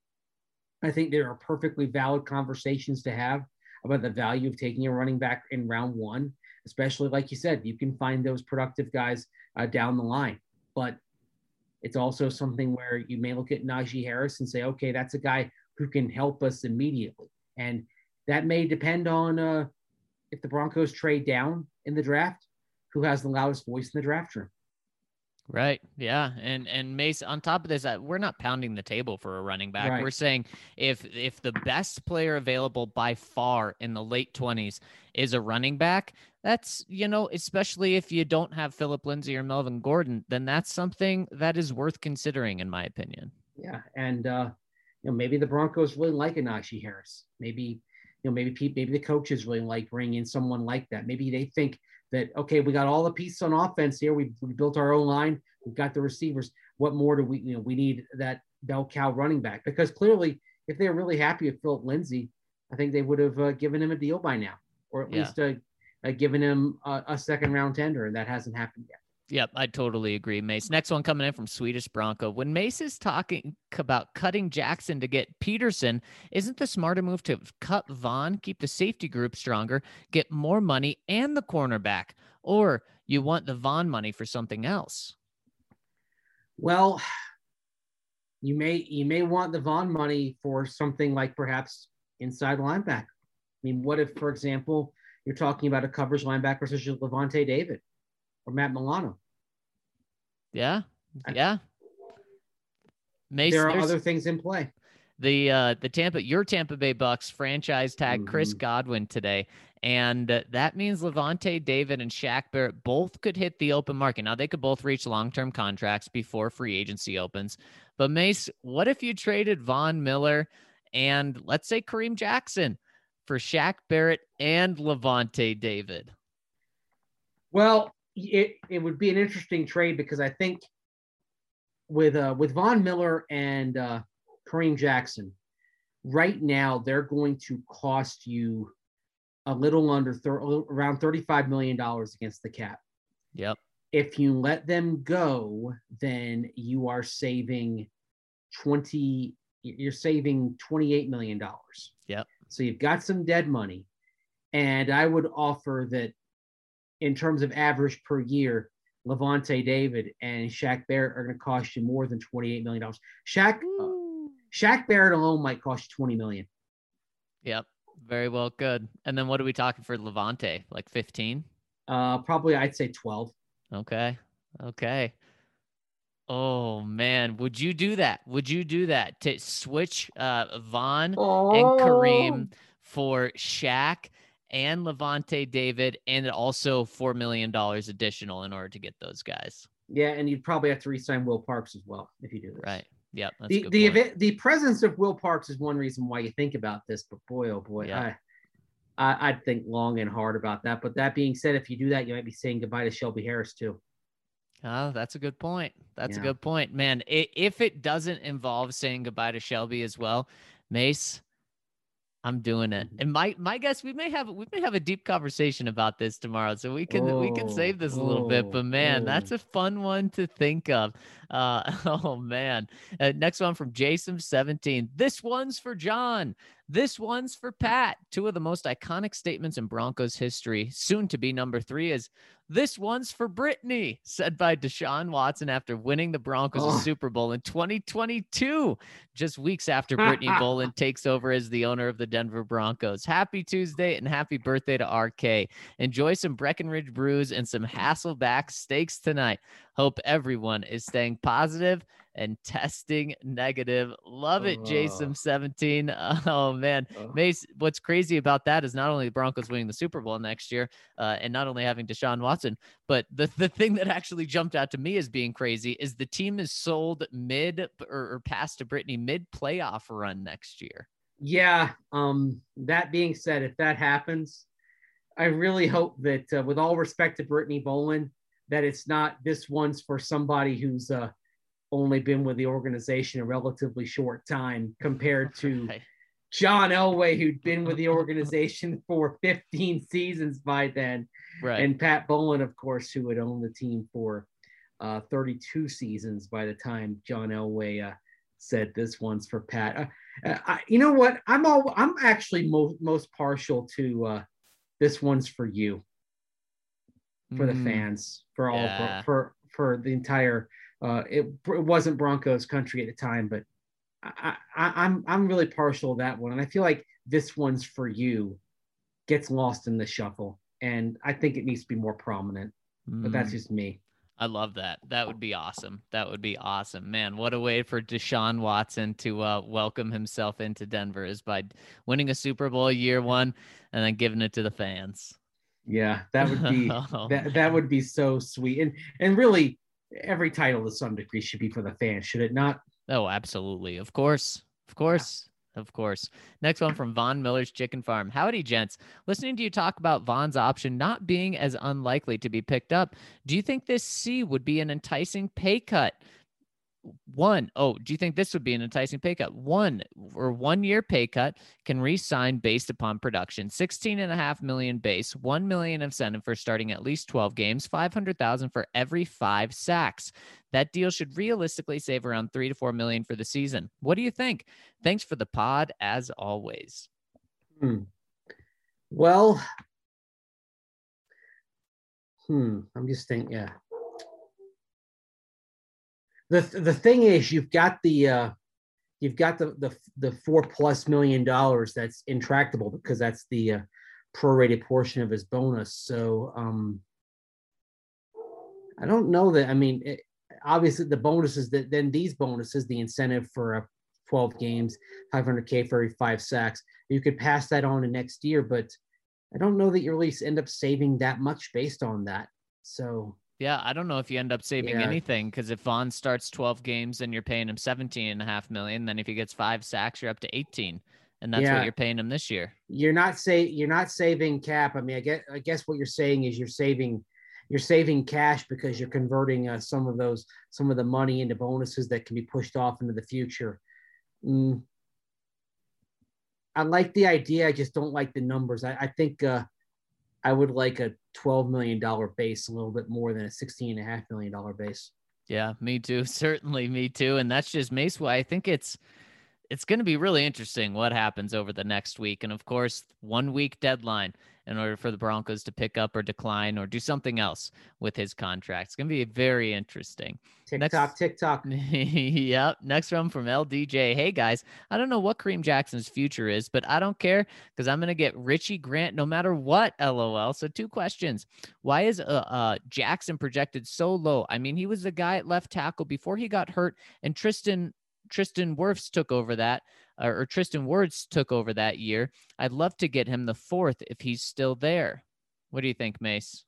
I think there are perfectly valid conversations to have about the value of taking a running back in round 1, especially like you said, you can find those productive guys down the line. But it's also something where you may look at Najee Harris and say, okay, that's a guy who can help us immediately. And that may depend on if the Broncos trade down in the draft, who has the loudest voice in the draft room. Right. Yeah. And Mace, on top of this, we're not pounding the table for a running back. Right. We're saying if the best player available by far in the late 20s is a running back, that's, especially if you don't have Philip Lindsay or Melvin Gordon, then that's something that is worth considering, in my opinion. Yeah. And, maybe the Broncos really like a Najee Harris. Maybe the coaches really like bringing in someone like that. Maybe they think that, okay, we got all the pieces on offense here. We built our own line. We've got the receivers. What more do we need that bell cow running back? Because clearly, if they're really happy with Philip Lindsay, I think they would have given him a deal by now, or at least given him a 2nd round tender, and that hasn't happened yet. Yep, I totally agree, Mace. Next one coming in from Swedish Bronco. When Mace is talking about cutting Jackson to get Peterson, isn't the smarter move to cut Vaughn, keep the safety group stronger, get more money and the cornerback? Or you want the Vaughn money for something else? Well, you may want the Vaughn money for something like perhaps inside linebacker. I mean, what if, for example, you're talking about a coverage linebacker such as Levante David or Matt Milano? Yeah. Mace, there are other things in play. Your Tampa Bay Bucks franchise tag Chris Godwin today, And that means Levante David and Shaq Barrett both could hit the open market. Now, they could both reach long-term contracts before free agency opens. But, Mace, what if you traded Von Miller and, let's say, Kareem Jackson for Shaq Barrett and Levante David? Well, it would be an interesting trade because I think with Von Miller and Kareem Jackson, right now they're going to cost you a little under around $35 million against the cap. Yep. If you let them go, then you are saving $28 million. Yep. So you've got some dead money. And I would offer that in terms of average per year, Levante David and Shaq Barrett are going to cost you more than $28 million. Shaq Barrett alone might cost you $20 million. Yep. Very well. Good. And then what are we talking for Levante? Like 15? Probably I'd say 12. Okay. Oh man. Would you do that? To switch Von and Kareem for Shaq and Levante David, and also $4 million additional in order to get those guys? Yeah. And you'd probably have to re-sign Will Parks as well if you do this. Right. Yep. The presence of Will Parks is one reason why you think about this, but boy, oh boy, yeah. I'd think long and hard about that. But that being said, if you do that, you might be saying goodbye to Shelby Harris too. Oh, that's a good point. A good point, man. If it doesn't involve saying goodbye to Shelby as well, Mace, I'm doing it. And my guess, we may have a deep conversation about this tomorrow, so we can save this a little bit. But man, that's a fun one to think of. Oh man. Next one from Jason17. This one's for John. This one's for Pat. Two of the most iconic statements in Broncos history, soon to be number 3, is "This one's for Brittany," said by Deshaun Watson after winning the Broncos a Super Bowl in 2022, just weeks after Brittany Boland takes over as the owner of the Denver Broncos. Happy Tuesday and happy birthday to RK. Enjoy some Breckenridge brews and some Hasselback steaks tonight. Hope everyone is staying positive and testing negative. Love it, Jason17. Oh, man. Mace, what's crazy about that is not only the Broncos winning the Super Bowl next year and not only having Deshaun Watson, but the thing that actually jumped out to me as being crazy is the team is sold mid or past to Brittany mid-playoff run next year. Yeah. That being said, if that happens, I really hope that with all respect to Brittany Boland, that it's not this one's for somebody who's only been with the organization a relatively short time compared to John Elway, who'd been with the organization for 15 seasons by then. Right. And Pat Boland, of course, who had owned the team for 32 seasons by the time John Elway said this one's for Pat. You know what? I'm actually most partial to this one's for you, for the fans, for all, for the entire. It wasn't Broncos country at the time, but I'm really partial to that one, and I feel like this one's for you gets lost in the shuffle, and I think it needs to be more prominent. But that's just me. I love that. That would be awesome. Man, what a way for Deshaun Watson to welcome himself into Denver is by winning a Super Bowl year one and then giving it to the fans. Yeah, that would be that would be so sweet, and really. Every title to some degree should be for the fans, should it not? Oh, absolutely. Of course. Next one from Von Miller's Chicken Farm. Howdy, gents. Listening to you talk about Von's option not being as unlikely to be picked up, do you think this C would be an enticing pay cut? Do you think this would be an enticing pay cut? 1 year pay cut, can re-sign based upon production. $16.5 million base, $1 million incentive for starting at least 12 games, $500,000 for every 5 sacks. That deal should realistically save around $3 to $4 million for the season. What do you think? Thanks for the pod as always. Well, I'm just thinking, yeah. The thing is, you've got the $4+ million that's intractable because that's the prorated portion of his bonus. So I don't know that. I mean, obviously the bonuses these bonuses, the incentive for 12 games, $500K for every 5 sacks. You could pass that on to next year, but I don't know that you really end up saving that much based on that. So yeah, I don't know if you end up saving anything, because if Vaughn starts 12 games and you're paying him 17.5 million, then if he gets 5 sacks, you're up to 18, and that's what you're paying him this year. You're not saving cap. I mean, I guess what you're saying is you're saving cash because you're converting some of the money into bonuses that can be pushed off into the future. I like the idea. I just don't like the numbers. I think I would like a $12 million base a little bit more than a $16.5 million base. Yeah, me too. Certainly me too. And that's just Mace. I think it's going to be really interesting what happens over the next week. And of course, 1 week deadline in order for the Broncos to pick up or decline or do something else with his contract. It's going to be very interesting. TikTok. Yep. Next one from LDJ. Hey guys, I don't know what Kareem Jackson's future is, but I don't care because I'm going to get Richie Grant no matter what. LOL. So 2 questions. Why is Jackson projected so low? I mean, he was the guy at left tackle before he got hurt, and Tristan Wirfs took over that, or Tristan Wirfs took over that year. I'd love to get him the 4th if he's still there. What do you think, Mace?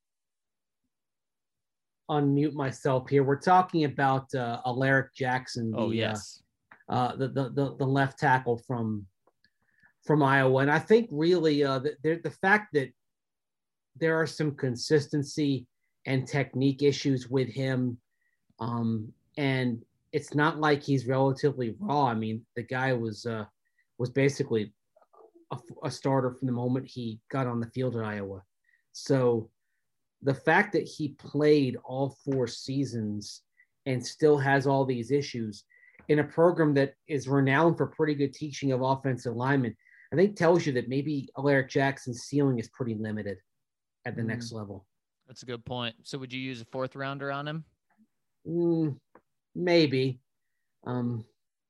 Unmute myself here. We're talking about Alaric Jackson. Yes. The left tackle from Iowa. And I think really the fact that there are some consistency and technique issues with him, and it's not like he's relatively raw. I mean, the guy was basically a starter from the moment he got on the field at Iowa. So the fact that he played all 4 seasons and still has all these issues in a program that is renowned for pretty good teaching of offensive linemen, I think tells you that maybe Alaric Jackson's ceiling is pretty limited at the next level. That's a good point. So would you use a 4th rounder on him? Maybe. I'm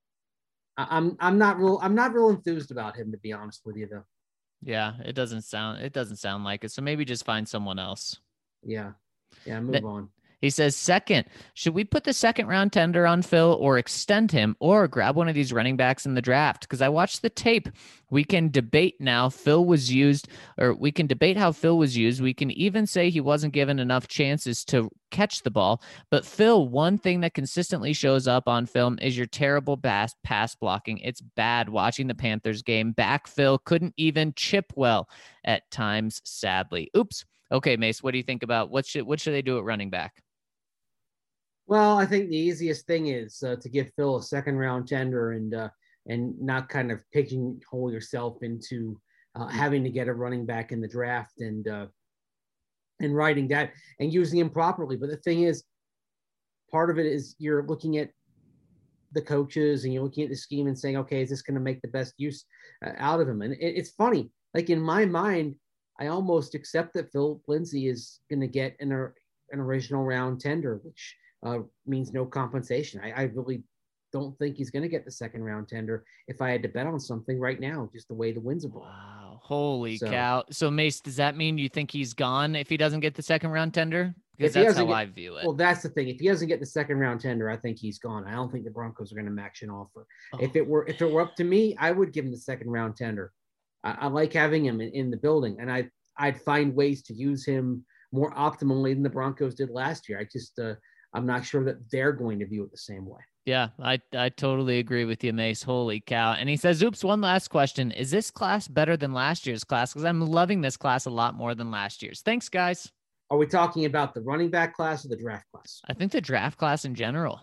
not real enthused about him, to be honest with you, though. Yeah, it doesn't sound like it. So maybe just find someone else. Yeah, move on. He says, second, should we put the 2nd round tender on Phil or extend him or grab one of these running backs in the draft? Because I watched the tape. We can debate now we can debate how Phil was used. We can even say he wasn't given enough chances to catch the ball. But Phil, one thing that consistently shows up on film is your terrible pass blocking. It's bad watching the Panthers game. Back Phil couldn't even chip well at times, sadly. Oops. Okay, Mace, what do you think about what should they do at running back? Well, I think the easiest thing is to give Phil a 2nd round tender and not kind of pigeonhole yourself into having to get a running back in the draft and writing that and using him properly. But the thing is, part of it is you're looking at the coaches and you're looking at the scheme and saying, okay, is this going to make the best use out of him? And it's funny, like in my mind, I almost accept that Phil Lindsay is going to get an original round tender, which means no compensation. I really don't think he's going to get the 2nd round tender if I had to bet on something right now, just the way the winds are blowing. Wow. Holy cow. So Mace, does that mean you think he's gone if he doesn't get the 2nd round tender? Because that's how I view it. Well, that's the thing. If he doesn't get the 2nd round tender, I think he's gone. I don't think the Broncos are going to match an offer. If it were up to me, I would give him the 2nd round tender. I like having him in the building, and I'd find ways to use him more optimally than the Broncos did last year. I'm not sure that they're going to view it the same way. Yeah, I totally agree with you, Mace. Holy cow. And he says, oops, one last question. Is this class better than last year's class? Because I'm loving this class a lot more than last year's. Thanks, guys. Are we talking about the running back class or the draft class? I think the draft class in general.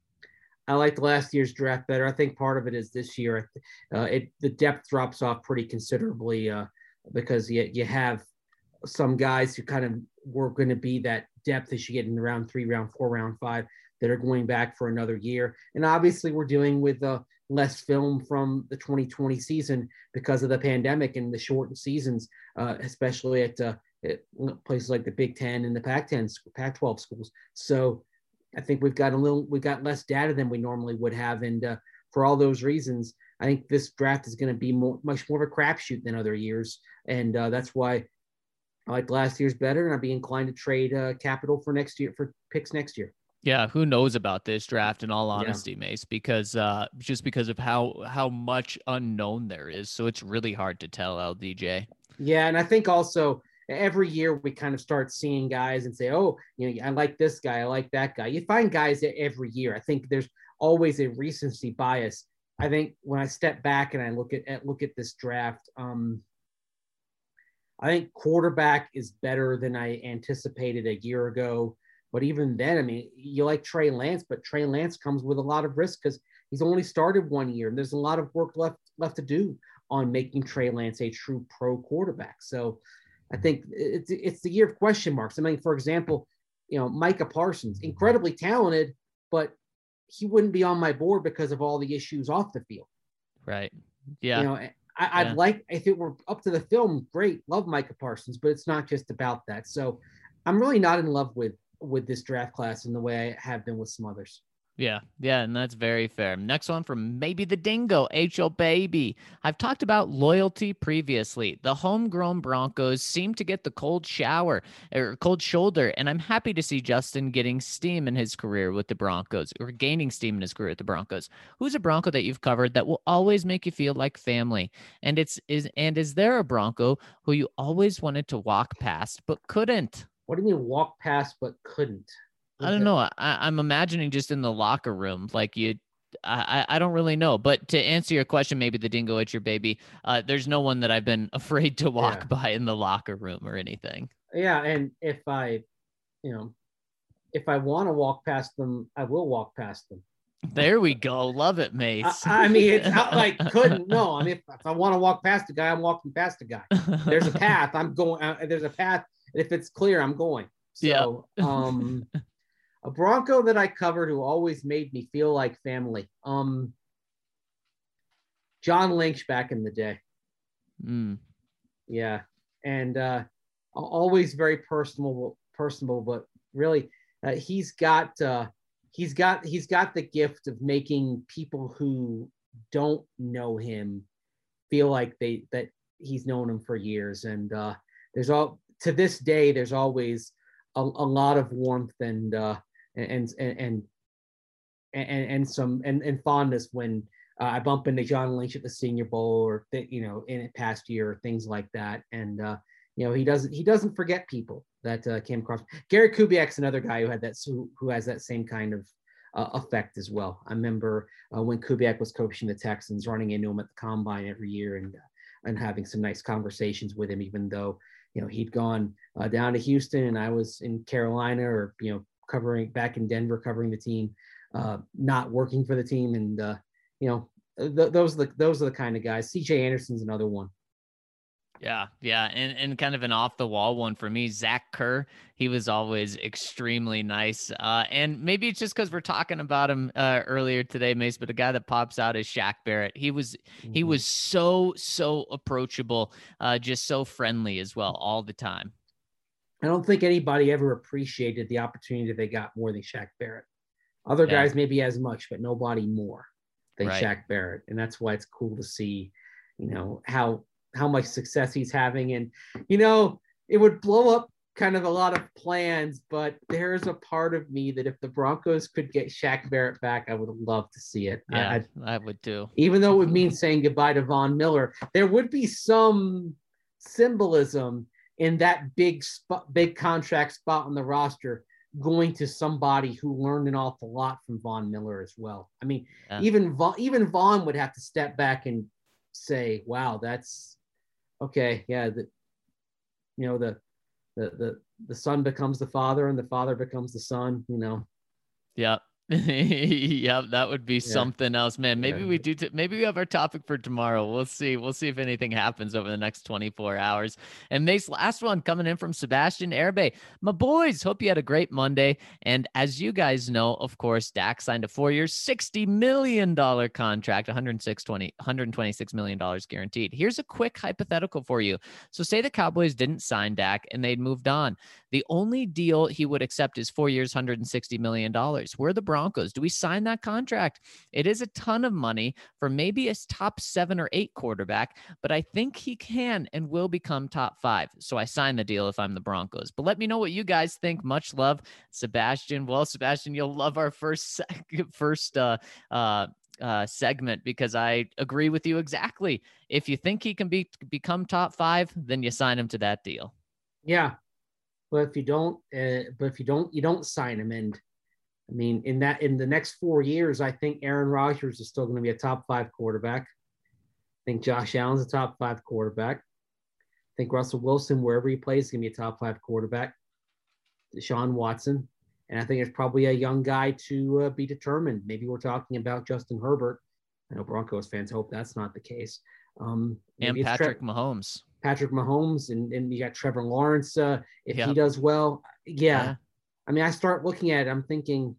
I liked last year's draft better. I think part of it is this year. The depth drops off pretty considerably because you have some guys who kind of were going to be that depth as you get in round 3, round 4, round 5 that are going back for another year. And obviously we're dealing with less film from the 2020 season because of the pandemic and the shortened seasons, especially at places like the Big Ten and the Pac-12 schools. So I think we've got less data than we normally would have. And for all those reasons, I think this draft is going to be much more of a crapshoot than other years. And that's why I like last year's better. And I'd be inclined to trade capital for next year, for picks next year. Yeah, who knows about this draft in all Yeah. honesty, Mace, because just because of how much unknown there is. So it's really hard to tell, LDJ. Yeah, and I think also every year we kind of start seeing guys and say, oh, I like this guy, I like that guy. You find guys every year. I think there's always a recency bias. I think when I step back and I look at this draft, I think quarterback is better than I anticipated a year ago. But even then, I mean, you like Trey Lance, but Trey Lance comes with a lot of risk because he's only started 1 year, and there's a lot of work left to do on making Trey Lance a true pro quarterback. So I think it's the year of question marks. I mean, for example, Micah Parsons, incredibly talented, but he wouldn't be on my board because of all the issues off the field. Right. Yeah. I'd like, if it were up to the film, great, love Micah Parsons, but it's not just about that. So I'm really not in love with this draft class in the way I have been with some others. Yeah, and that's very fair. Next one from Maybe the Dingo, H.O. Baby. I've talked about loyalty previously. The homegrown Broncos seem to get the cold shoulder, and I'm happy to see Justin getting steam in his career with the Broncos, or gaining steam in his career with the Broncos. Who's a Bronco that you've covered that will always make you feel like family? And is there a Bronco who you always wanted to walk past but couldn't? What do you mean walk past but couldn't? I don't know. I'm imagining just in the locker room, like I don't really know. But to answer your question, maybe the Dingo, it's your baby. There's no one that I've been afraid to walk by in the locker room or anything. Yeah, and if I want to walk past them, I will walk past them. There we go. Love it, Mace. I mean, it's not like couldn't. No, I mean, if I want to walk past a guy, I'm walking past a guy. There's a path. I'm going. There's a path. If it's clear, I'm going. So, a Bronco that I covered who always made me feel like family. John Lynch back in the day. Yeah. And always very personable, but really he's got the gift of making people who don't know him feel like that he's known him for years. And to this day, there's always a lot of warmth and some fondness when I bump into John Lynch at the Senior Bowl or in a past year or things like that. And he doesn't forget people that came across. Gary Kubiak's another guy who has that same kind of effect as well. I remember when Kubiak was coaching the Texans, running into him at the combine every year and having some nice conversations with him, even though he'd gone down to Houston and I was in Carolina or covering back in Denver, covering the team, not working for the team. And, those are the kind of guys. CJ Anderson's another one. Yeah. And kind of an off the wall one for me, Zach Kerr. He was always extremely nice. And maybe it's just because we're talking about him earlier today, Mace, but a guy that pops out is Shaq Barrett. He was so approachable, just so friendly as well all the time. I don't think anybody ever appreciated the opportunity they got more than Shaq Barrett. Other guys maybe as much, but nobody more than Shaq Barrett. And that's why it's cool to see, how much success he's having. And, it would blow up kind of a lot of plans, but there's a part of me that if the Broncos could get Shaq Barrett back, I would love to see it. Yeah, I would too. Even though it would mean saying goodbye to Von Miller, there would be some symbolism in that big contract spot on the roster going to somebody who learned an awful lot from Von Miller as well. I mean, even Von would have to step back and say, wow, that's okay. Yeah. The son becomes the father and the father becomes the son, Yeah. Yep, that would be something else, man. Maybe we do. Maybe we have our topic for tomorrow. We'll see. We'll see if anything happens over the next 24 hours. And Mace, last one coming in from Sebastian Erbe. My boys, hope you had a great Monday. And as you guys know, of course, Dak signed a 4-year, $60 million contract, $126 million guaranteed. Here's a quick hypothetical for you. So say the Cowboys didn't sign Dak and they'd moved on. The only deal he would accept is 4 years, $160 million. We're the Broncos. Do we sign that contract? It is a ton of money for maybe a top 7 or 8 quarterback, but I think he can and will become top 5. So I sign the deal if I'm the Broncos. But let me know what you guys think. Much love, Sebastian. Well, Sebastian, you'll love our first segment because I agree with you exactly. If you think he can become top 5, then you sign him to that deal. Yeah, but if you don't, you don't sign him. And I mean, in the next 4 years, I think Aaron Rodgers is still going to be a top 5 quarterback. I think Josh Allen's a top 5 quarterback. I think Russell Wilson, wherever he plays, is going to be a top 5 quarterback. Deshaun Watson. And I think it's probably a young guy to be determined. Maybe we're talking about Justin Herbert. I know Broncos fans hope that's not the case. And Patrick Mahomes. Patrick Mahomes, and you got Trevor Lawrence. If he does well, yeah. I mean, I start looking at it, I'm thinking,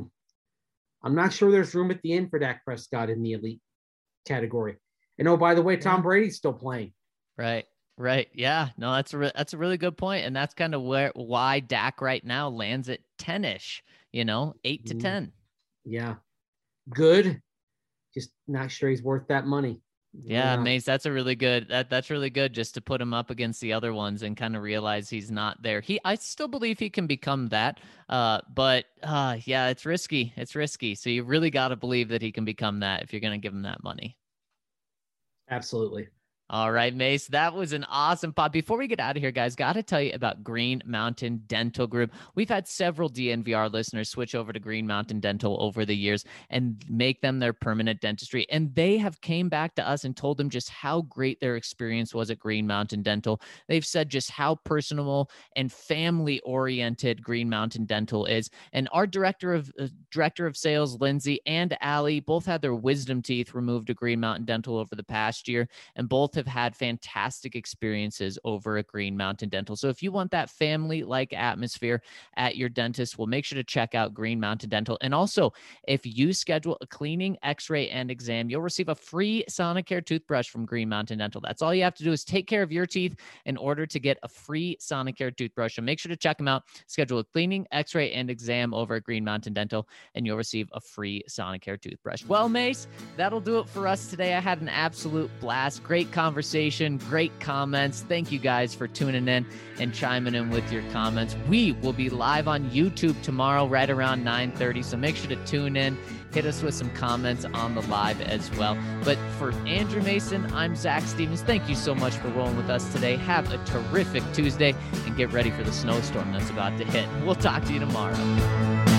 I'm not sure there's room at the end for Dak Prescott in the elite category. And oh, by the way, Tom Brady's still playing. Right. Yeah. No, that's a really good point. And that's kind of why Dak right now lands at 10-ish, 8 to 10. Yeah. Good. Just not sure he's worth that money. Yeah, Mace, that's a really good, that's really good just to put him up against the other ones and kind of realize he's not there. I still believe he can become that. But yeah, it's risky. So you really got to believe that he can become that if you're going to give him that money. Absolutely. All right, Mace, that was an awesome pod. Before we get out of here, guys, got to tell you about Green Mountain Dental Group. We've had several DNVR listeners switch over to Green Mountain Dental over the years and make them their permanent dentistry. And they have came back to us and told them just how great their experience was at Green Mountain Dental. They've said just how personal and family-oriented Green Mountain Dental is. And our director of sales, Lindsay, and Allie both had their wisdom teeth removed at Green Mountain Dental over the past year, and both have had fantastic experiences over at Green Mountain Dental. So if you want that family-like atmosphere at your dentist, well, make sure to check out Green Mountain Dental. And also, if you schedule a cleaning, x-ray, and exam, you'll receive a free Sonicare toothbrush from Green Mountain Dental. That's all you have to do is take care of your teeth in order to get a free Sonicare toothbrush. So make sure to check them out. Schedule a cleaning, x-ray, and exam over at Green Mountain Dental, and you'll receive a free Sonicare toothbrush. Well, Mace, that'll do it for us today. I had an absolute blast. Great conversation, great comments. Thank you guys for tuning in and chiming in with your comments. We will be live on YouTube tomorrow right around 9:30, so make sure to tune in. Hit us with some comments on the live as well. But for Andrew Mason, I'm Zach Stevens. Thank you so much for rolling with us today. Have a terrific Tuesday and get ready for the snowstorm that's about to hit. We'll talk to you tomorrow.